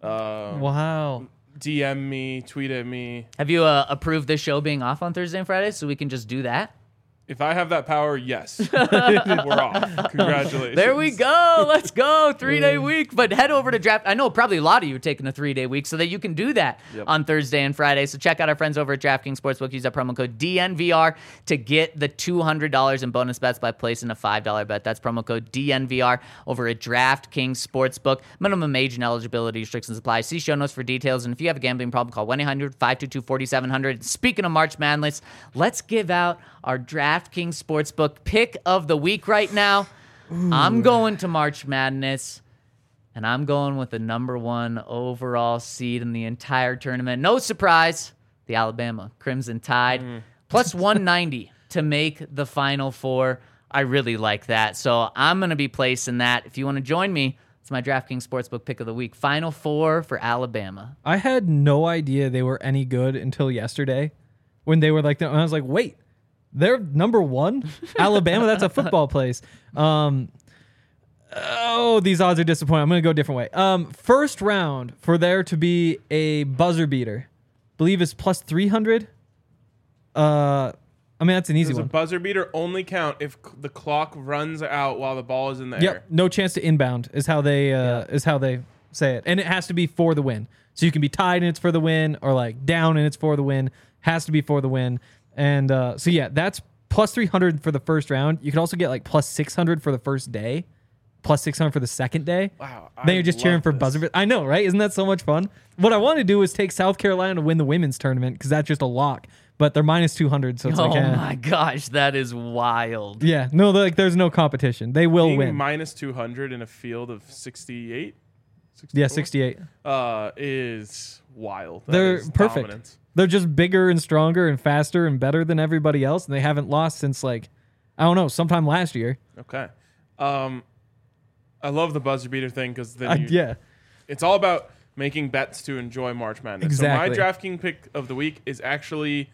Wow. DM me, tweet at me. Have you approved this show being off on Thursday and Friday so we can just do that? If I have that power, yes. We're off. Congratulations. There we go. Let's go. 3-day week. But head over to Draft. I know probably a lot of you are taking a 3-day week so that you can do that on Thursday and Friday. So check out our friends over at DraftKings Sportsbook. Use that promo code DNVR to get the $200 in bonus bets by placing a $5 bet. That's promo code DNVR over at DraftKings Sportsbook. Minimum age and eligibility restrictions apply. See show notes for details. And if you have a gambling problem, call 1-800-522-4700. Speaking of March Madness, let's give out our DraftKings Sportsbook pick of the week right now. I'm going to March Madness, and I'm going with the number 1 overall seed in the entire tournament. No surprise, the Alabama Crimson Tide, plus 190 to make the Final Four. I really like that, so I'm going to be placing that. If you want to join me, it's my DraftKings Sportsbook pick of the week. Final Four for Alabama. I had no idea they were any good until yesterday when they were like, and I was like, wait. They're number 1? Alabama, that's a football place. These odds are disappointing. I'm going to go a different way. First round, for there to be a buzzer beater, I believe is plus 300. That's an easy Does a one. buzzer beater only count if the clock runs out while the ball is in the air? Yep, no chance to inbound is how they say it. And it has to be for the win. So you can be tied and it's for the win, or like down and it's for the win. Has to be for the win. And that's plus 300 for the first round. You could also get like plus 600 for the first day, plus 600 for the second day. Wow. Then you're just cheering for buzzer. I know, right? Isn't that so much fun? What I want to do is take South Carolina to win the women's tournament because that's just a lock. But they're minus 200, so it's Oh my gosh, that is wild. Yeah, no, like there's no competition. They will Being win. minus 200 in a field of 68? 64? Yeah, 68. Is wild. That They're is perfect. dominance. They're just bigger and stronger and faster and better than everybody else, and they haven't lost since sometime last year. Okay. I love the buzzer beater thing because then it's all about making bets to enjoy March Madness. Exactly. So my DraftKings pick of the week is actually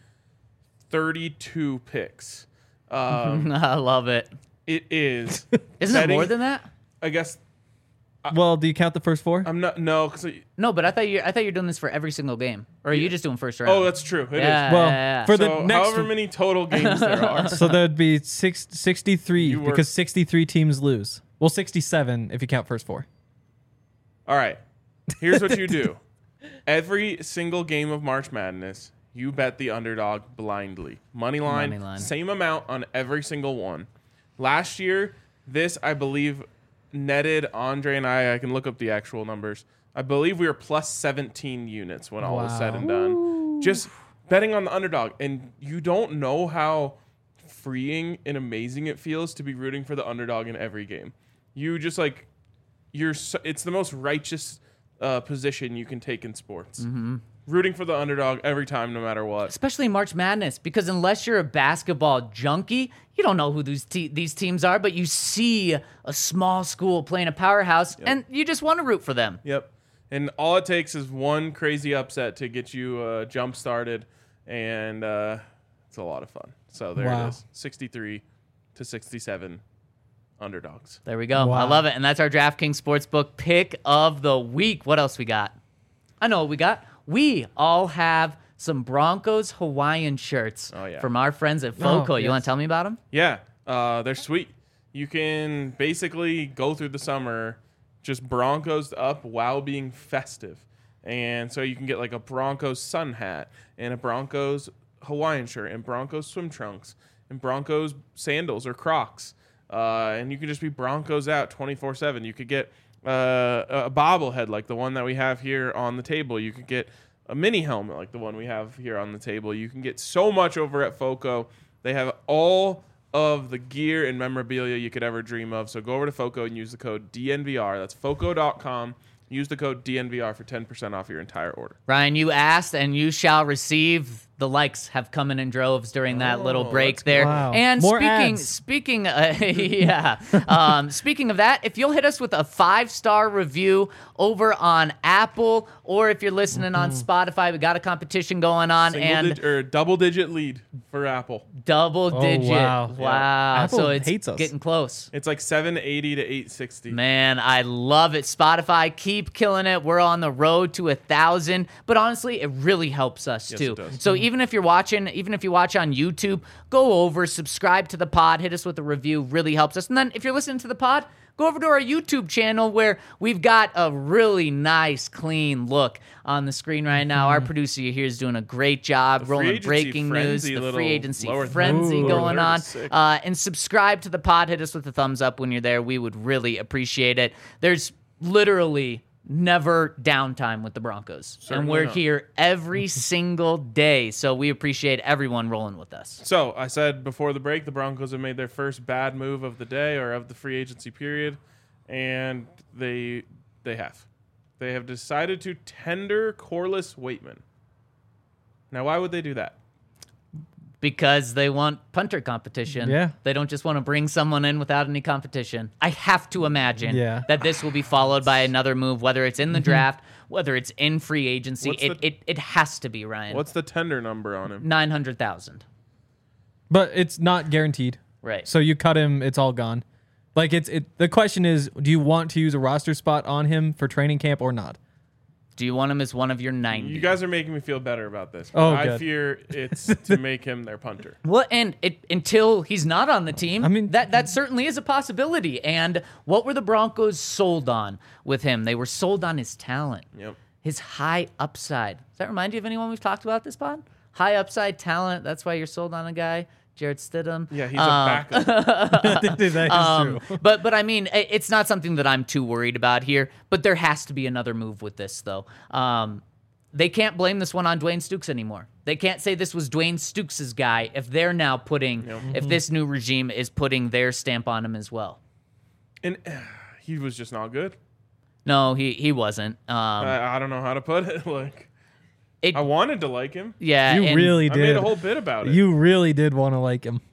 32 picks. I love it. It is. Isn't it more than that? I guess. Well, do you count the first 4? I'm not. No, because. No, but I thought you're doing this for every single game, or are you just doing first round? Oh, that's true. It is. Yeah. For the So next, however many total games there are. so there'd be 63 You were- because 63 teams lose. Well, 67 if you count first 4. All right. Here's what you do. Every single game of March Madness, you bet the underdog blindly. Money line. Same amount on every single one. Last year, this, I believe, netted Andre and I can look up the actual numbers. I believe we were plus 17 units when all was said and done. Just betting on the underdog. And you don't know how freeing and amazing it feels to be rooting for the underdog in every game. You just it's the most righteous position you can take in sports. Mm-hmm. Rooting for the underdog every time, no matter what. Especially March Madness, because unless you're a basketball junkie, you don't know who these teams are, but you see a small school playing a powerhouse, and you just want to root for them. Yep. And all it takes is one crazy upset to get you jump started, and it's a lot of fun. So there it is, 63-67 underdogs. There we go. Wow. I love it. And that's our DraftKings Sportsbook pick of the week. What else we got? I know what we got. We all have some Broncos Hawaiian shirts from our friends at FOCO. You want to tell me about them? Yeah, they're sweet. You can basically go through the summer just Broncos up while being festive. And so you can get like a Broncos sun hat and a Broncos Hawaiian shirt and Broncos swim trunks and Broncos sandals or Crocs. And you can just be Broncos out 24/7. You could get a bobblehead like the one that we have here on the table. You could get a mini helmet like the one we have here on the table. You can get so much over at FOCO. They have all of the gear and memorabilia you could ever dream of. So go over to FOCO and use the code DNVR. That's FOCO.com. Use the code DNVR for 10% off your entire order. Ryan, you asked and you shall receive. The likes have come in droves during that little break there. Wow. And More speaking of that, if you'll hit us with a 5-star review over on Apple, or if you're listening on Spotify, we got a competition going on. Double-digit lead for Apple. Double-digit. wow. Wow. Apple So it's hates us. getting close. It's like 780 to 860. Man, I love it. Spotify, keep killing it. We're on the road to 1,000. But honestly, it really helps us too. it does. So even if you watch on YouTube, go over, subscribe to the pod, hit us with a review, really helps us. And then if you're listening to the pod, go over to our YouTube channel where we've got a really nice, clean look on the screen right now. Our producer here is doing a great job rolling breaking news, the free agency frenzy going on. And subscribe to the pod. Hit us with a thumbs up when you're there. We would really appreciate it. There's literally never downtime with the Broncos. Certainly and we're not. here every single day. So we appreciate everyone rolling with us. So I said before the break, the Broncos have made their first bad move of the day or of the free agency period, and they have. They have decided to tender Corliss Waitman. Now, why would they do that? Because they want punter competition. Yeah. They don't just want to bring someone in without any competition. I have to imagine Yeah. that this will be followed by another move, whether it's in the draft, whether it's in free agency. What's It has to be, Ryan. What's the tender number on him? 900,000. But it's not guaranteed. Right. So you cut him, it's all gone. Like the question is, do you want to use a roster spot on him for training camp or not? Do you want him as one of your 90? You guys are making me feel better about this. Oh, I good. fear it's to make him their punter. Well, and until he's not on the team, I mean- that certainly is a possibility. And what were the Broncos sold on with him? They were sold on his talent, Yep. his high upside. Does that remind you of anyone we've talked about this pod? High upside talent. That's why you're sold on a guy, Jared Stidham. Yeah, he's a backup. That is true. But I mean, it's not something that I'm too worried about here. But there has to be another move with this, though. They can't blame this one on Dwayne Stukes anymore. They can't say this was Dwayne Stukes' guy if they're now putting, if this new regime is putting their stamp on him as well. And he was just not good. No, he wasn't. I don't know how to put it. Like, It- I wanted to like him. Yeah, You and- really I did. made a whole bit about it. You really did want to like him.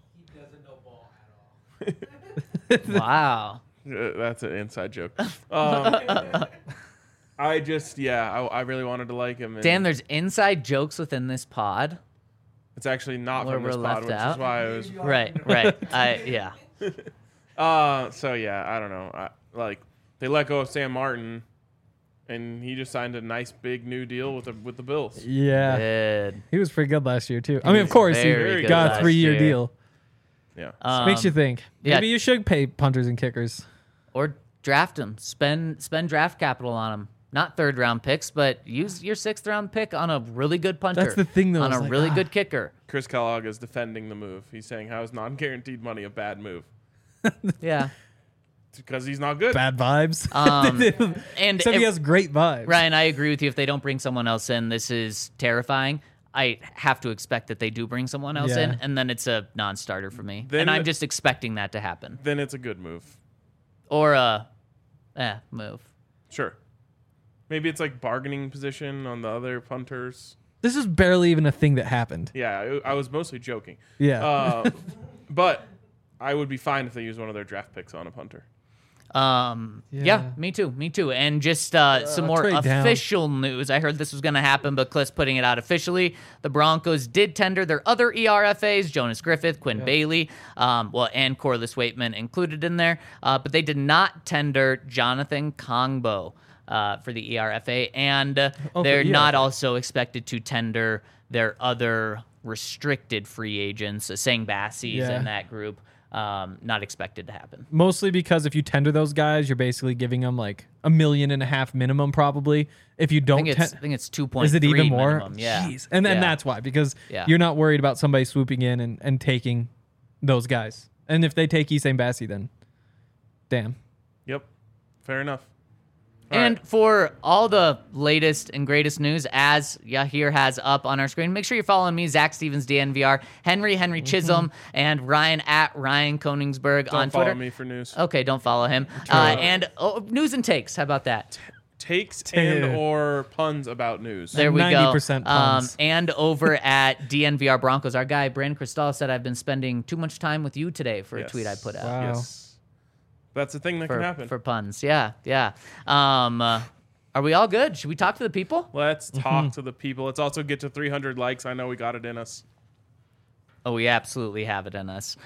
Wow. That's an inside joke. I just, I really wanted to like him. And Dan, there's inside jokes within this pod. it's actually not Where from this we're pod, left which out. is why I was. Right. Yeah. So yeah, I don't know. They let go of Sam Martin, and he just signed a nice big new deal with the Bills. Yeah. Good. He was pretty good last year, too. I mean, of course, he very good got a last 3-year year. deal. Yeah. Makes you think. yeah. Maybe you should pay punters and kickers. Or draft him. Spend draft capital on him. Not third round picks, but use your 6th round pick on a really good punter. That's the thing, though, On is a like, really good kicker. Chris Kellogg is defending the move. He's saying, "How is non-guaranteed money a bad move?" Yeah. Because he's not good. Bad vibes. And Except he has great vibes. Ryan, I agree with you. If they don't bring someone else in, this is terrifying. I have to expect that they do bring someone else Yeah. in, and then it's a non-starter for me. Then and I'm it- just expecting that to happen. Then it's a good move. Or a move. Sure. Maybe it's like bargaining position on the other punters. This is barely even a thing that happened. Yeah, I was mostly joking. Yeah. But I would be fine if they use one of their draft picks on a punter. Yeah, me too. And just some more trade down. official news. I heard this was going to happen, but Cliff's putting it out officially. The Broncos did tender their other ERFAs, Jonas Griffith, Quinn Bailey, and Corliss Waitman included in there, but they did not tender Jonathan Kongbo for the ERFA, and they're not ERFA. also expected to tender their other restricted free agents, Sang Bassi's Yeah. in that group. Not expected to happen. Mostly because if you tender those guys, you're basically giving them like $1.5 million minimum, probably. If you I don't, think it's 2.3. is it even more? Minimum. Yeah, Jeez. And then Yeah. that's why, because Yeah. you're not worried about somebody swooping in and taking those guys. And if they take Essam Bassi, then damn. Yep. Fair enough. All And right. for all the latest and greatest news, as Yahir has up on our screen, make sure you're following me, Zach Stevens, DNVR, Henry Chisholm, and Ryan at Ryan Koningsberg on Don't follow Twitter. me for news. Okay, don't follow him. And news and takes. How about that? Takes and or puns about news. There we go. 90% puns. And over at DNVR Broncos, our guy Brandon Cristal said, "I've been spending too much time with you today" for a Yes. tweet I put out. Wow. Yes. That's the thing that can happen. For puns. Yeah. Are we all good? Should we talk to the people? Let's talk to the people. Let's also get to 300 likes. I know we got it in us. Oh, we absolutely have it in us.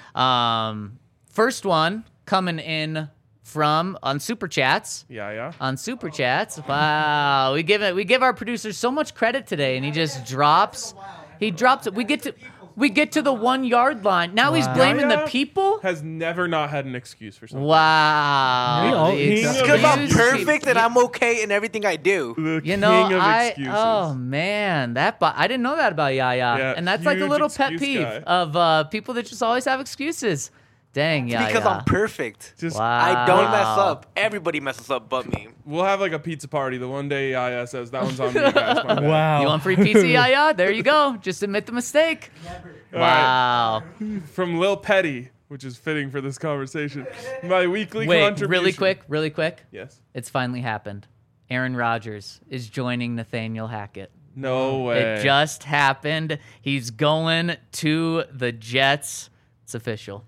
First one coming in from on Super Chats. Yeah. On Super Chats. Wow. We give our producer so much credit today, and he just drops He drops it. We get to the 1 yard line. Now he's blaming the Yaya people. Has never not had an excuse for something. Wow. King of Because I'm Excuses. perfect and I'm okay in everything I do. The You know, king of excuses. oh man, I didn't know that about Yaya, Yeah, and that's like a huge little pet excuse peeve guy. of people that just always have excuses. Dang, Yaya. Because I'm perfect. Just I don't mess Wow. up. Everybody messes up but me. we'll have like a pizza party the one day Yaya says that one's on me, guys. My bad. Wow. You want free pizza, Yaya? There you go. Just admit the mistake. All right. Wow. From Lil Petty, which is fitting for this conversation. My weekly Wait, contribution. really quick. Yes. It's finally happened. Aaron Rodgers is joining Nathaniel Hackett. No way. It just happened. He's going to the Jets. It's official.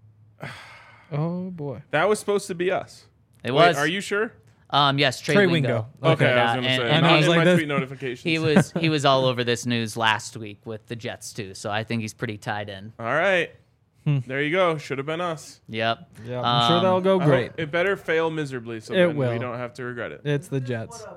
Oh boy. That was supposed to be us. It Wait, was. are you sure? Yes, Trey, Trey Wingo. Wingo. Okay, I was Yeah, gonna and- say. and Not I in was like my this- tweet notifications. He was all over this news last week with the Jets too, so I think he's pretty tied in. All right. There you go. Should have been us. Yep. Yeah, I'm sure that'll go I great. hope- It better fail miserably so It then will. we don't have to regret it. It's the Jets.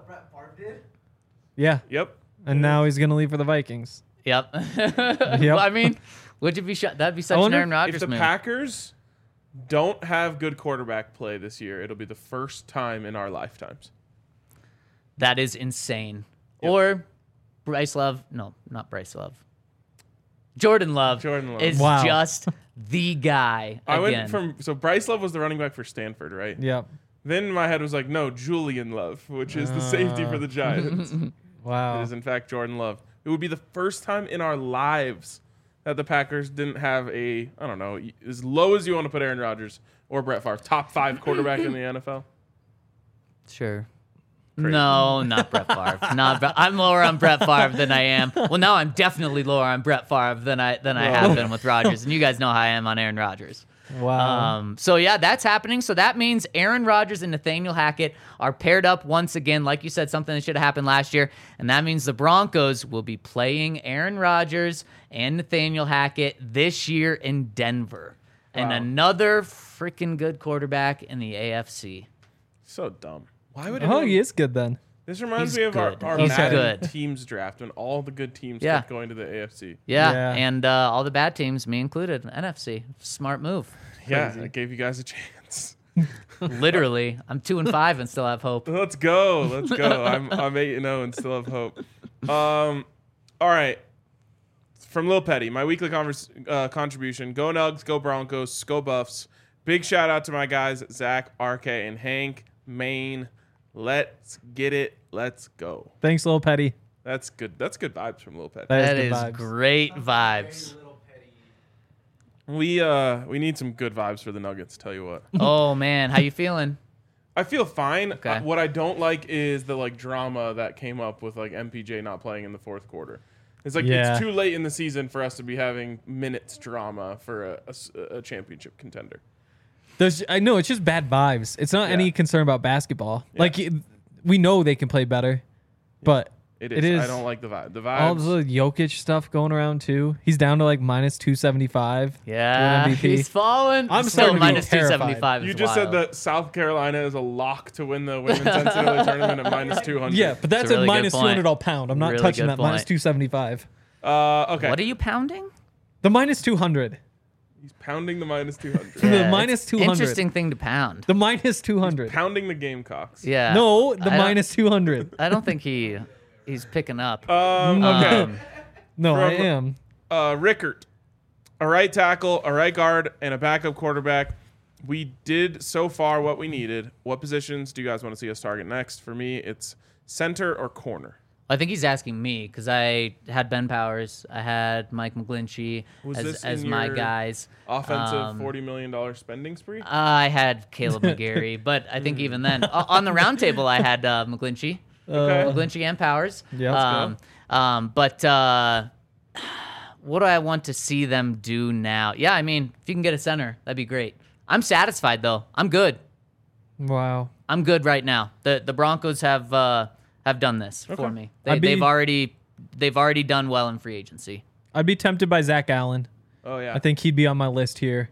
Yeah, Yep. and now he's gonna leave for the Vikings. Yep. Yep. I mean, would you be that'd be such an wonder Aaron If Rodgers the move. Packers don't have good quarterback play this year, it'll be the first time in our lifetimes. That is insane. Yep. Or Bryce Love. No, not Bryce Love. Jordan Love, Jordan Love. is Wow. just the guy I again. went from Bryce Love was the running back for Stanford, right? Yep. Then my head was like, no, Julian Love, which is the safety for the Giants. It Wow. is in fact Jordan Love. It would be the first time in our lives that the Packers didn't have a, I don't know, as low as you want to put Aaron Rodgers or Brett Favre, top 5 quarterback in the NFL. Sure. Crazy. No, not Brett Favre. I'm lower on Brett Favre than I am. Well, now I'm definitely lower on Brett Favre than I have been with Rodgers, and you guys know how I am on Aaron Rodgers. Wow. So yeah, that's happening. So that means Aaron Rodgers and Nathaniel Hackett are paired up once again. Like you said, something that should have happened last year, and that means the Broncos will be playing Aaron Rodgers and Nathaniel Hackett this year in Denver, and Wow. another freaking good quarterback in the AFC. So dumb. Why would Oh, anyone- he is good then. This reminds He's me of good. our He's Madden good. teams draft when all the good teams Yeah. kept going to the AFC. Yeah, Yeah. and all the bad teams, me included, NFC. Smart move. Yeah, I gave you guys a chance. Literally, I'm 2-5 and still have hope. Let's go. Let's go. I'm 8-0 and still have hope. All right. From Lil Petty, my weekly contribution. Go Nugs, go Broncos, go Buffs. Big shout out to my guys, Zach, RK, and Hank, Maine. Let's get it. Let's go. Thanks, Lil Petty. That's good. That's good vibes from Lil Petty. That good is vibes. great vibes. We need some good vibes for the Nuggets, tell you what. Oh man, how you feeling? I feel fine. Okay. What I don't like is the drama that came up with MPJ not playing in the fourth quarter. It's Yeah. it's too late in the season for us to be having minutes drama for a championship contender. I know it's just bad vibes. It's not any concern about basketball. Yeah. Like we know they can play better, but It It is. is. I don't like the vibe. The all vibes. the Jokic stuff going around too. He's down to minus 275. Yeah, to win MVP. he's falling. I'm Still starting to be minus terrified. 275. You is just said wild. that South Carolina is a lock to win the women's NCAA tournament at minus 200. Yeah, but that's a really at good minus point. 200 all pound. I'm not Really touching good that minus point. 275. Okay. What are you pounding? The minus 200. He's pounding the minus 200. The Yeah, minus it's 200. Interesting thing to pound. The minus 200. Pounding the Gamecocks. Yeah. No, the I don't- minus 200. I don't think he's picking up. Okay. No, I From- am. Rickert, a right tackle, a right guard, and a backup quarterback. We did so far what we needed. What positions do you guys want to see us target next? For me, it's center or corner. I think he's asking me because I had Ben Powers, I had Mike McGlinchey Was as, this as in my your guys. Offensive $40 million spending spree. I had Caleb McGarry, but I think even then, on the round table, I had McGlinchey, Okay. McGlinchey and Powers. Yeah, let's But what do I want to see them do now? Yeah, I mean, if you can get a center, that'd be great. I'm satisfied though. I'm good. Wow. I'm good right now. The Broncos have done this for me. I'd be- They've already done well in free agency. I'd be tempted by Zach Allen. Oh yeah. I think he'd be on my list here.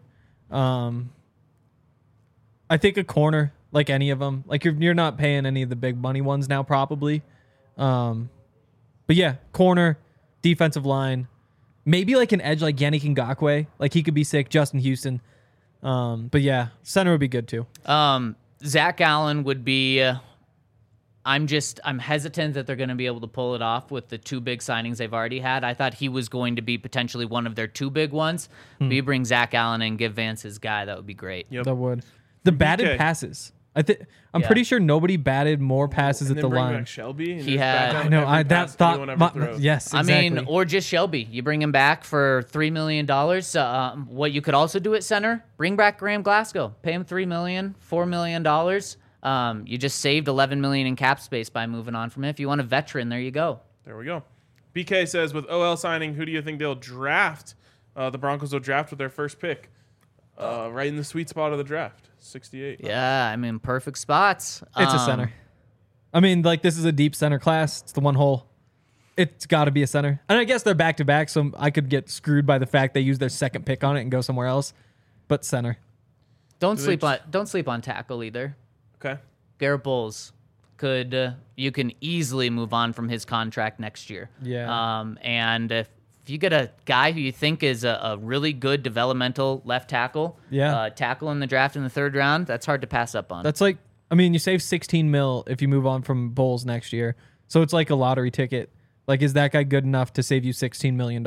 I think a corner, like any of them. Like you're not paying any of the big money ones now, probably. But yeah, corner, defensive line. Maybe like an edge like Yannick Ngakoue. Like he could be sick. Justin Houston. But yeah, center would be good too. Zach Allen would be. I'm hesitant that they're going to be able to pull it off with the 2 big signings they've already had. I thought he was going to be potentially one of their 2 big ones. But you bring Zach Allen and give Vance his guy, that would be great. Yep. That would. The batted Okay. passes. I'm Yeah. pretty sure nobody batted more passes And at then the bring line. back Shelby. And He just had- back I down know. every That pass thought. anyone ever throws. Yes, exactly. I mean, or just Shelby. You bring him back for $3 million. What you could also do at center, bring back Graham Glasgow. Pay him $3 million, $4 million. You just saved $11 million in cap space by moving on from it. If you want a veteran, there you go. There we go. BK says, with OL signing, who do you think they'll draft? The Broncos will draft with their first pick. Right in the sweet spot of the draft, 68. Yeah, I mean, perfect spots. It's a center. I mean, like this is a deep center class. It's the one hole. It's got to be a center. And I guess they're back to back, so I could get screwed by the fact they use their second pick on it and go somewhere else. But center. Don't they sleep just- on don't sleep on tackle either. Okay. Garrett Bowles could you can easily move on from his contract next year. Yeah. And if you get a guy who you think is a really good developmental left tackle, tackle in the draft in the 3rd round, that's hard to pass up on. That's like, I mean, you save 16 mil if you move on from Bulls next year. So it's like a lottery ticket. Like, is that guy good enough to save you $16 million?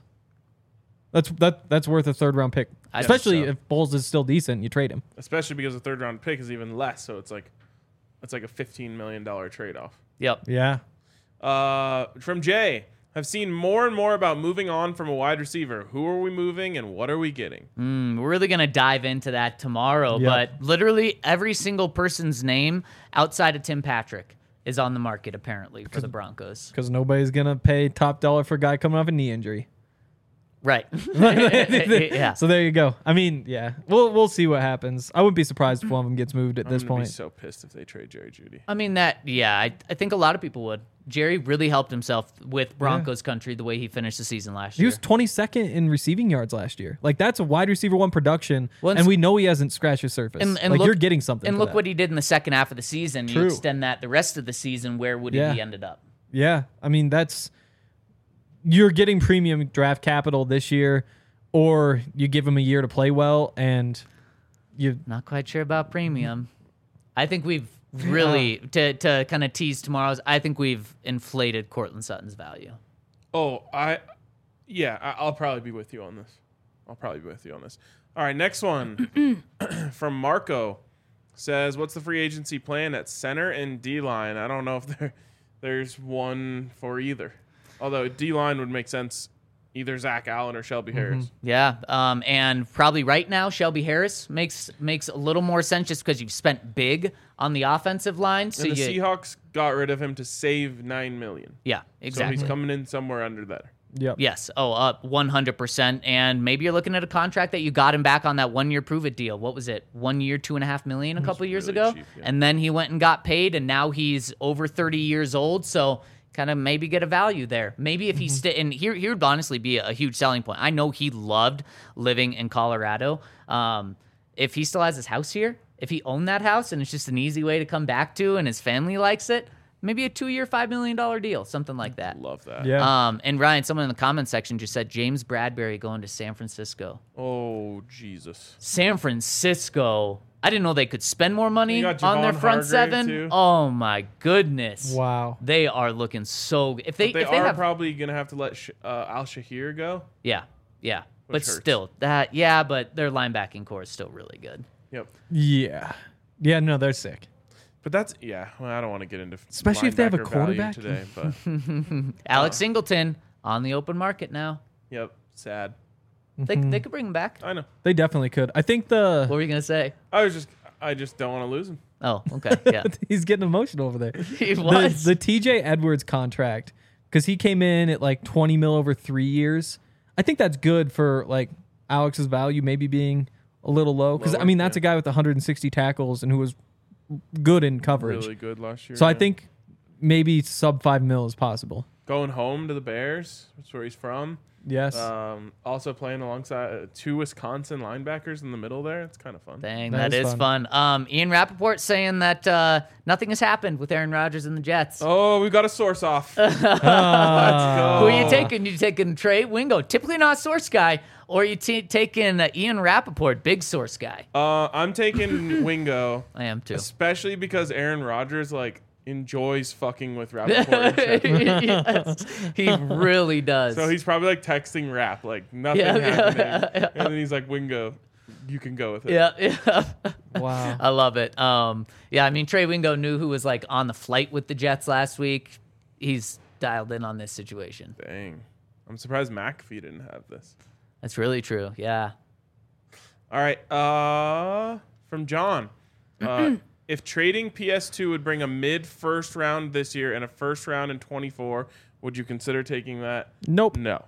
That's worth a 3rd round pick. I think Especially so. if Bulls is still decent, you trade him. Especially because the 3rd round pick is even less, so it's like a $15 million trade off. Yep. Yeah. From Jay, have seen more and more about moving on from a wide receiver. Who are we moving and what are we getting? We're really going to dive into that tomorrow, Yep. but literally every single person's name outside of Tim Patrick is on the market apparently for the Broncos. Because nobody's going to pay top dollar for a guy coming off a knee injury. Right. Yeah. So there you go. I mean, yeah. We'll see what happens. I wouldn't be surprised if one of them gets moved at this I'm gonna point. be so pissed if they trade Jerry Jeudy. I mean, I think a lot of people would. Jerry really helped himself with Broncos country the way he finished the season last He year. was 22nd in receiving yards last year. Like, that's a wide receiver 1 production, Well, and we know he hasn't scratched the surface. And like, look- you're getting something And for look that. what he did in the second half of the season. You True. extend that the rest of the season, where would he Yeah. be ended up? Yeah. I mean, you're getting premium draft capital this year, or you give him a year to play well, and you... Not quite sure about premium. I think we've really, to kind of tease tomorrow's, I think we've inflated Cortland Sutton's value. Oh, I'll probably be with you on this. All right, next one from Marco says, what's the free agency plan at center and D-line? I don't know if there's one for either. Although D-line would make sense, either Zach Allen or Shelby Harris. Yeah, and probably right now Shelby Harris makes a little more sense just because you've spent big on the offensive line. So And the Seahawks got rid of him to save $9 million. yeah, So exactly. he's coming in somewhere under there. Yep. Yes. Oh, up 100%. And maybe you're looking at a contract that you got him back on that 1 year prove it deal. What was it? 1 year, $2.5 million a couple years really ago. cheap, yeah. And then he went and got paid, and now he's over 30 years old. So kind of maybe get a value there. Maybe if he and here would honestly be a huge selling point. I know he loved living in Colorado. If he still has his house here, if he owned that house and it's just an easy way to come back to, and his family likes it, maybe a 2 year, $5 million deal, something like that. Love that. Yeah. And Ryan, someone in the comment section just said James Bradbury going to San Francisco. Oh, Jesus. San Francisco. I didn't know they could spend more money You got on their Javon front Hargrave, seven. too. Oh my goodness! Wow. They are looking so good. If they They if they are have probably going to have to let Al Shahir go. yeah. But Which hurts. still but their linebacking core is still really good. Yep. Yeah. Yeah, no, they're sick. But that's, well, I don't want to get into Especially if they have a linebacker value quarterback. today, but Alex Singleton on the open market now. yep, sad. They could bring him back. I know. They definitely could. I think What were you gonna say? I just don't want to lose him. Oh, okay, yeah. he's getting emotional over there. He was. The TJ Edwards contract, because he came in at like 20 mil over 3 years. I think that's good for like Alex's value maybe being a little low. Because I Lower, mean, that's yeah. a guy with 160 tackles and who was good in coverage. Really good last year. So I yeah. think maybe sub 5 mil is possible. going home to the Bears. That's where he's from. Yes. Also playing alongside 2 Wisconsin linebackers in the middle there. It's kind of fun. Dang, That that is is fun. Ian Rappaport saying that nothing has happened with Aaron Rodgers and the Jets. Oh, we've got a source off. Let's Who go. are you taking? You taking Trey Wingo? Typically not a source guy. Or are you taking Ian Rappaport, big source guy? I'm taking Wingo, I am too. especially because Aaron Rodgers enjoys fucking with Rappaport. and shit. Yes, he really does. So he's probably texting Rap nothing Yeah, happening, and then he's like, Wingo, you can go with it. yeah. Wow. I love it. Yeah, I mean, Trey Wingo knew who was on the flight with the Jets last week. He's dialed in on this situation. Dang, I'm surprised McAfee didn't have this. That's really true. Yeah. All right, from John. If trading PS2 would bring a mid-first round this year and a first round in 24, would you consider taking that? Nope. No.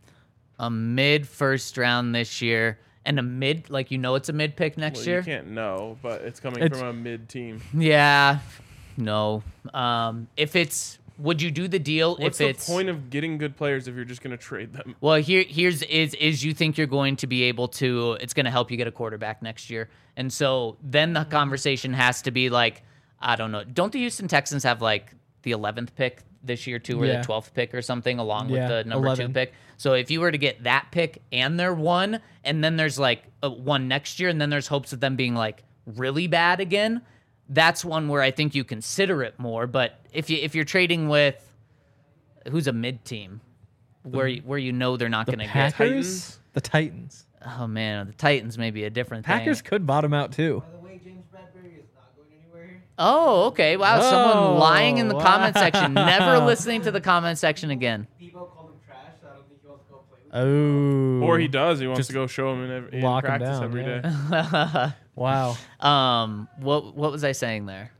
A mid first round this year and a mid, it's a mid pick next Well, year. you can't know, but it's coming It's- from a mid-team. Yeah. No. If it's, would you do the deal What's if the it's point of getting good players if you're just going to trade them? Well, here's you think you're going to be able to, it's going to help you get a quarterback next year. And so then the conversation has to be I don't know. Don't the Houston Texans have the 11th pick this year too, or Yeah. the 12th pick or something along Yeah, with the number 11. 2 pick? So if you were to get that pick and their 1, and then there's a 1 next year, and then there's hopes of them being really bad again, that's one where I think you consider it more. But if you're trading with who's a mid team, where you know they're not The going to get. Packers? Titans? The Titans. Oh man, the Titans may be a different Packers thing. could bottom out too. By the way, James Bradbury is not going anywhere here. Oh, okay. Wow, Oh, someone lying in the comment wow. section. Never listening to the comment section again. Debo called him trash, so I don't think he wants to go play with him. Oh. Or he does. He wants Just to go show him in lock him practice down, every day. yeah. Wow. What was I saying there?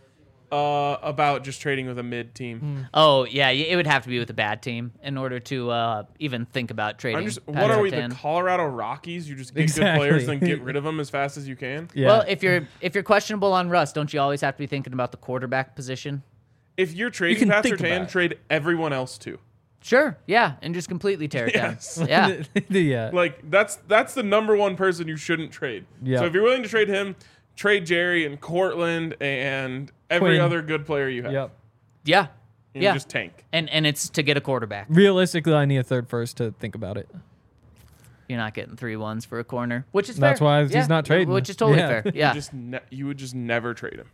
About just trading with a mid team. Hmm. Oh yeah, it would have to be with a bad team in order to even think about trading. What are we, the Patrick Tan. Colorado Rockies? You just get Exactly. good players and then get rid of them as fast as you can? Yeah. Well, if you're questionable on Russ, don't you always have to be thinking about the quarterback position? If you're trading can Pat think Surtain, about it. trade everyone else too. Sure, yeah, and just completely tear it Yes. down. Yeah. yeah. That's the number one person you shouldn't trade. Yeah. So if you're willing to trade him, trade Jerry and Cortland and every Quinn. other good player you have. Yep. Yeah. And Yeah. just tank. And it's to get a quarterback. Realistically, I need a third first to think about it. You're not getting 3 1s for a corner, which is That's fair. why he's Yeah, not trading. Which is totally Yeah. fair. Yeah. You would just never trade him.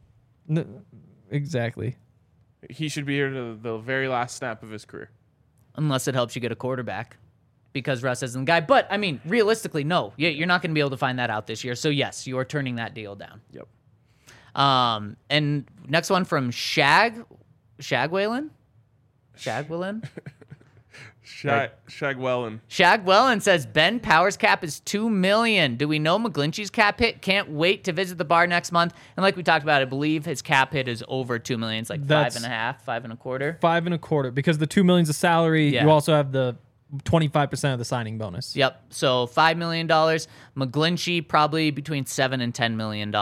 Exactly. He should be here to the very last snap of his career. Unless it helps you get a quarterback, because Russ isn't the guy. But I mean, realistically, no. You're not going to be able to find that out this year. So yes, you are turning that deal down. Yep. And next one from Shagwellen. Shagwellen Shagwellen. says Ben Powers' cap is $2 million. Do we know McGlinchey's cap hit? Can't wait to visit the bar next month. And like we talked about, I believe his cap hit is over $2 million. It's like That's- 5.5, 5.25. 5.25 because the $2 million's a salary. Yeah. You also have the 25% of the signing bonus. Yep. So $5 million. McGlinchey probably between $7 and $10 million.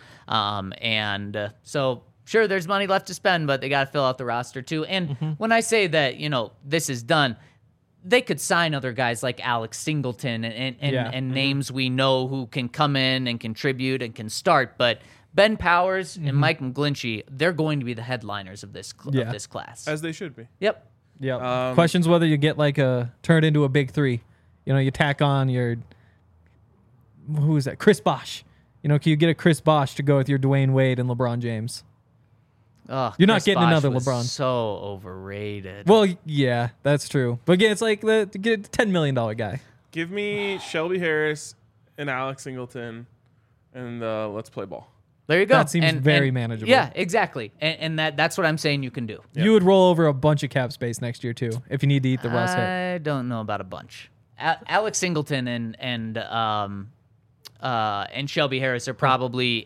So sure, there's money left to spend, but they got to fill out the roster too. And when I say that, this is done, they could sign other guys like Alex Singleton and names we know who can come in and contribute and can start. But Ben Powers and Mike McGlinchey, they're going to be the headliners of this Yeah. of this class. As they should be. Yep. Yeah. Questions whether you get turn it into a big three. You tack on your who is that? Chris Bosh. Can you get a Chris Bosh to go with your Dwayne Wade and LeBron James? Oh, You're not Chris getting Bosh another was LeBron. So overrated. Well, yeah, that's true. But again, it's like to get a $10 million guy. Give me Shelby Harris and Alex Singleton, and let's play ball. There you go. That seems very manageable. Yeah, exactly. And that's what I'm saying you can do. You would roll over a bunch of cap space next year too if you need to eat the Russ hit. I don't know about a bunch. Alex Singleton and Shelby Harris are probably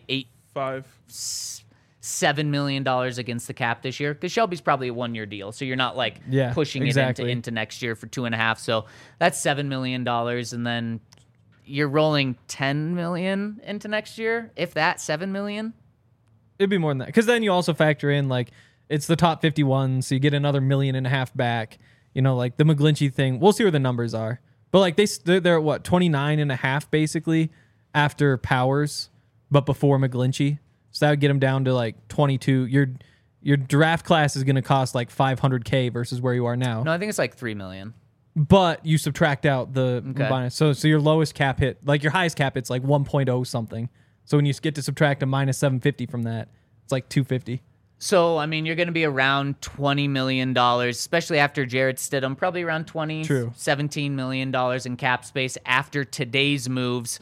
$7 million against the cap this year because Shelby's probably a 1-year deal, so you're not pushing exactly. it into next year for 2.5. So that's $7 million, and then you're rolling $10 million into next year, if that $7 million. It'd be more than that because then you also factor in it's the top 51, so you get another $1.5 million back. You know, like the McGlinchey thing. We'll see where the numbers are. But like they're at what, 29.5 basically after Powers, but before McGlinchey. So that would get them down to like 22. Your draft class is going to cost like $500K versus where you are now. No, I think it's like $3 million. But you subtract out the bonus. So your lowest cap hit, like your highest cap hit's like 1.0 something. So when you get to subtract a minus 750 from that, it's like 250. So, I mean, you're going to be around $20 million, especially after Jared Stidham, probably around $17 million in cap space after today's moves.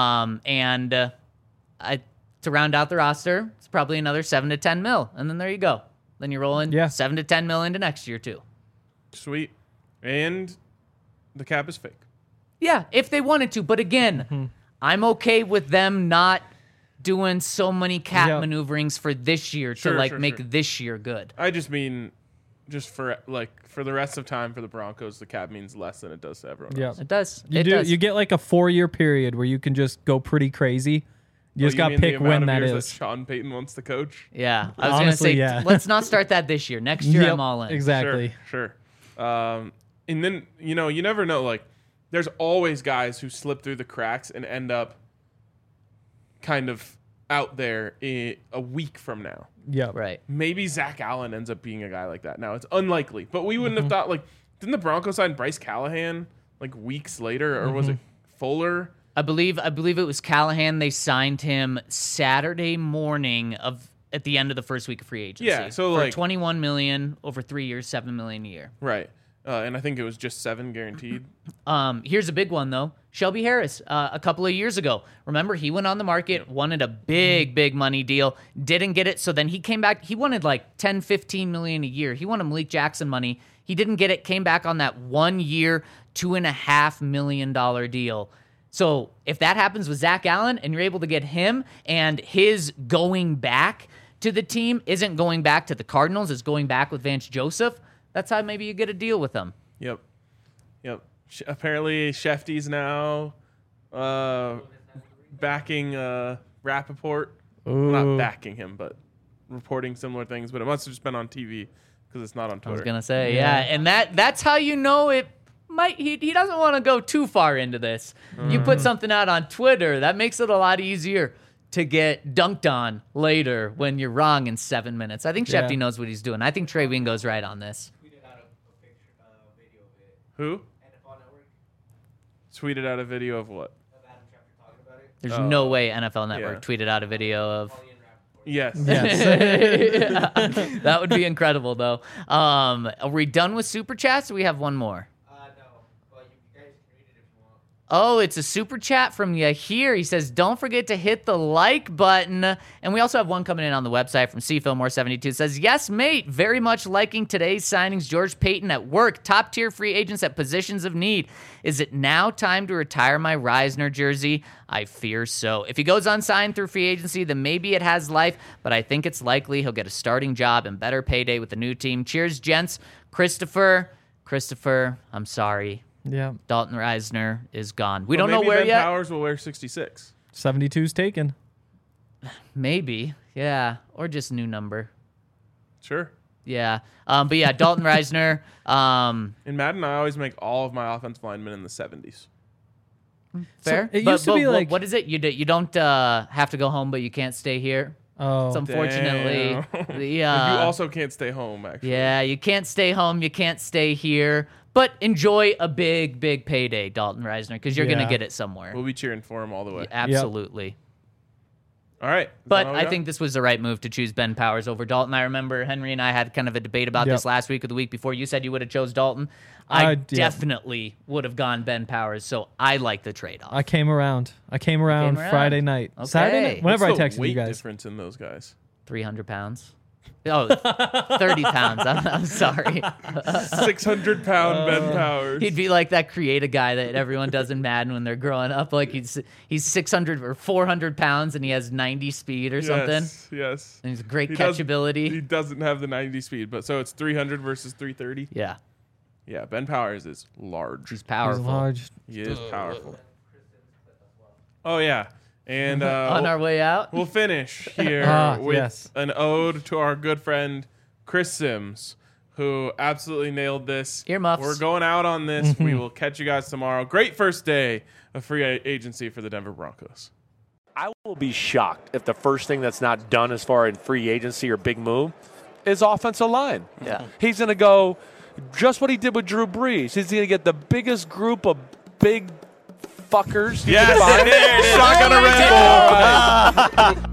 To round out the roster, it's probably another 7 to 10 mil. And then there you go. Then you're rolling 7 to 10 mil into next year, too. Sweet. And the cap is fake. Yeah, if they wanted to. But again, I'm okay with them not doing so many cap maneuverings for this year to make this year good. I just mean, just for the rest of time for the Broncos, the cap means less than it does to everyone else. It does. You get like a 4-year period where you can just go pretty crazy. You just got to pick when that is. That Sean Payton wants to coach. Yeah, I was going to say, let's not start that this year. Next year, I'm all in. Exactly. Sure. And then, you never know. Like, there's always guys who slip through the cracks and end up kind of out there a week from now. Yeah. Right. Maybe Zach Allen ends up being a guy like that. Now, it's unlikely, but we wouldn't have thought, like, didn't the Broncos sign Bryce Callahan, like, weeks later, or was it Fuller? I believe it was Callahan. They signed him Saturday morning at the end of the first week of free agency. Yeah, so for like $21 million over 3 years, $7 million a year. Right. And I think it was just 7 guaranteed. Here's a big one, though. Shelby Harris, a couple of years ago. Remember, he went on the market, wanted a big money deal, didn't get it. So then he came back. He wanted like $10, $15 million a year. He wanted Malik Jackson money. He didn't get it, came back on that 1 year, $2.5 million deal. So if that happens with Zach Allen and you're able to get him and his going back to the team isn't going back to the Cardinals, it's going back with Vance Joseph, that's how maybe you get a deal with him. Yep. Apparently, Shefty's now backing Rappaport. Well, not backing him, but reporting similar things. But it must have just been on TV because it's not on Twitter. I was going to say, yeah. And that's how you know it might. He doesn't want to go too far into this. You put something out on Twitter, that makes it a lot easier to get dunked on later when you're wrong in 7 minutes. I think Shefty knows what he's doing. I think Trey Wingo's right on this. Who? NFL Network Tweeted out a video of what? of Adam Schefter talking about it. There's no way NFL Network tweeted out a video of... Yes. That would be incredible, though. Are we done with Super Chats, or we have one more? No, but you guys can read it if you want. Oh, it's a Super Chat from Yahir. He says, don't forget to hit the like button. And we also have one coming in on the website from CFillmore72. It says, yes, mate, very much liking today's signings. George Payton at work, top-tier free agents at positions of need. Is it now time to retire my Reisner jersey? I fear so. If he goes unsigned through free agency, then maybe it has life, but I think it's likely he'll get a starting job and better payday with the new team. Cheers, gents. Christopher, I'm sorry. Yeah. Dalton Reisner is gone. We Well, don't know maybe where Ben yet. Powers will wear 66. 72's taken. Maybe. Yeah. Or just new number. Sure. Yeah. But yeah, Dalton Reisner. In Madden, I always make all of my offensive linemen in the 70s. Fair. it used to be like- what is it? You don't have to go home, but you can't stay here. Oh, It's unfortunately Damn. the You also can't stay home, actually. yeah, you can't stay home, you can't stay here, but enjoy a big payday, Dalton Reisner, because you're gonna Yeah. get it somewhere. We'll be cheering for him all the way. Absolutely. All right. Is But that all we I got? think this was the right move to choose Ben Powers over Dalton. I remember Henry and I had kind of a debate about this last week or the week before. You said you would have chose Dalton. I definitely would have gone Ben Powers, so I like the trade-off. I came around. Friday night. Okay. Saturday night. Whenever I What's the texted you weight guys. difference in those guys? 300 pounds. Oh, 30 pounds. I'm sorry. 600-pound Ben Powers. He'd be like that creative guy that everyone does in Madden when they're growing up. Like he's 600 or 400 pounds and he has 90 speed or something. Yes. And he's great He catchability. doesn't have the 90 speed, but so it's 300 versus 330. Yeah, Yeah, Ben Powers is large. he's He's powerful. large. He is powerful. Oh yeah, and On our way out. we'll finish here with yes. an ode to our good friend Chris Sims, who absolutely nailed this. Earmuffs. We're going out on this. We will catch you guys tomorrow. Great first day of free agency for the Denver Broncos. I will be shocked if the first thing that's not done as far in free agency or big move is offensive line. Yeah. He's going to go just what he did with Drew Brees. He's going to get the biggest group of big fuckers. Yes, Shotgun a Red Bull.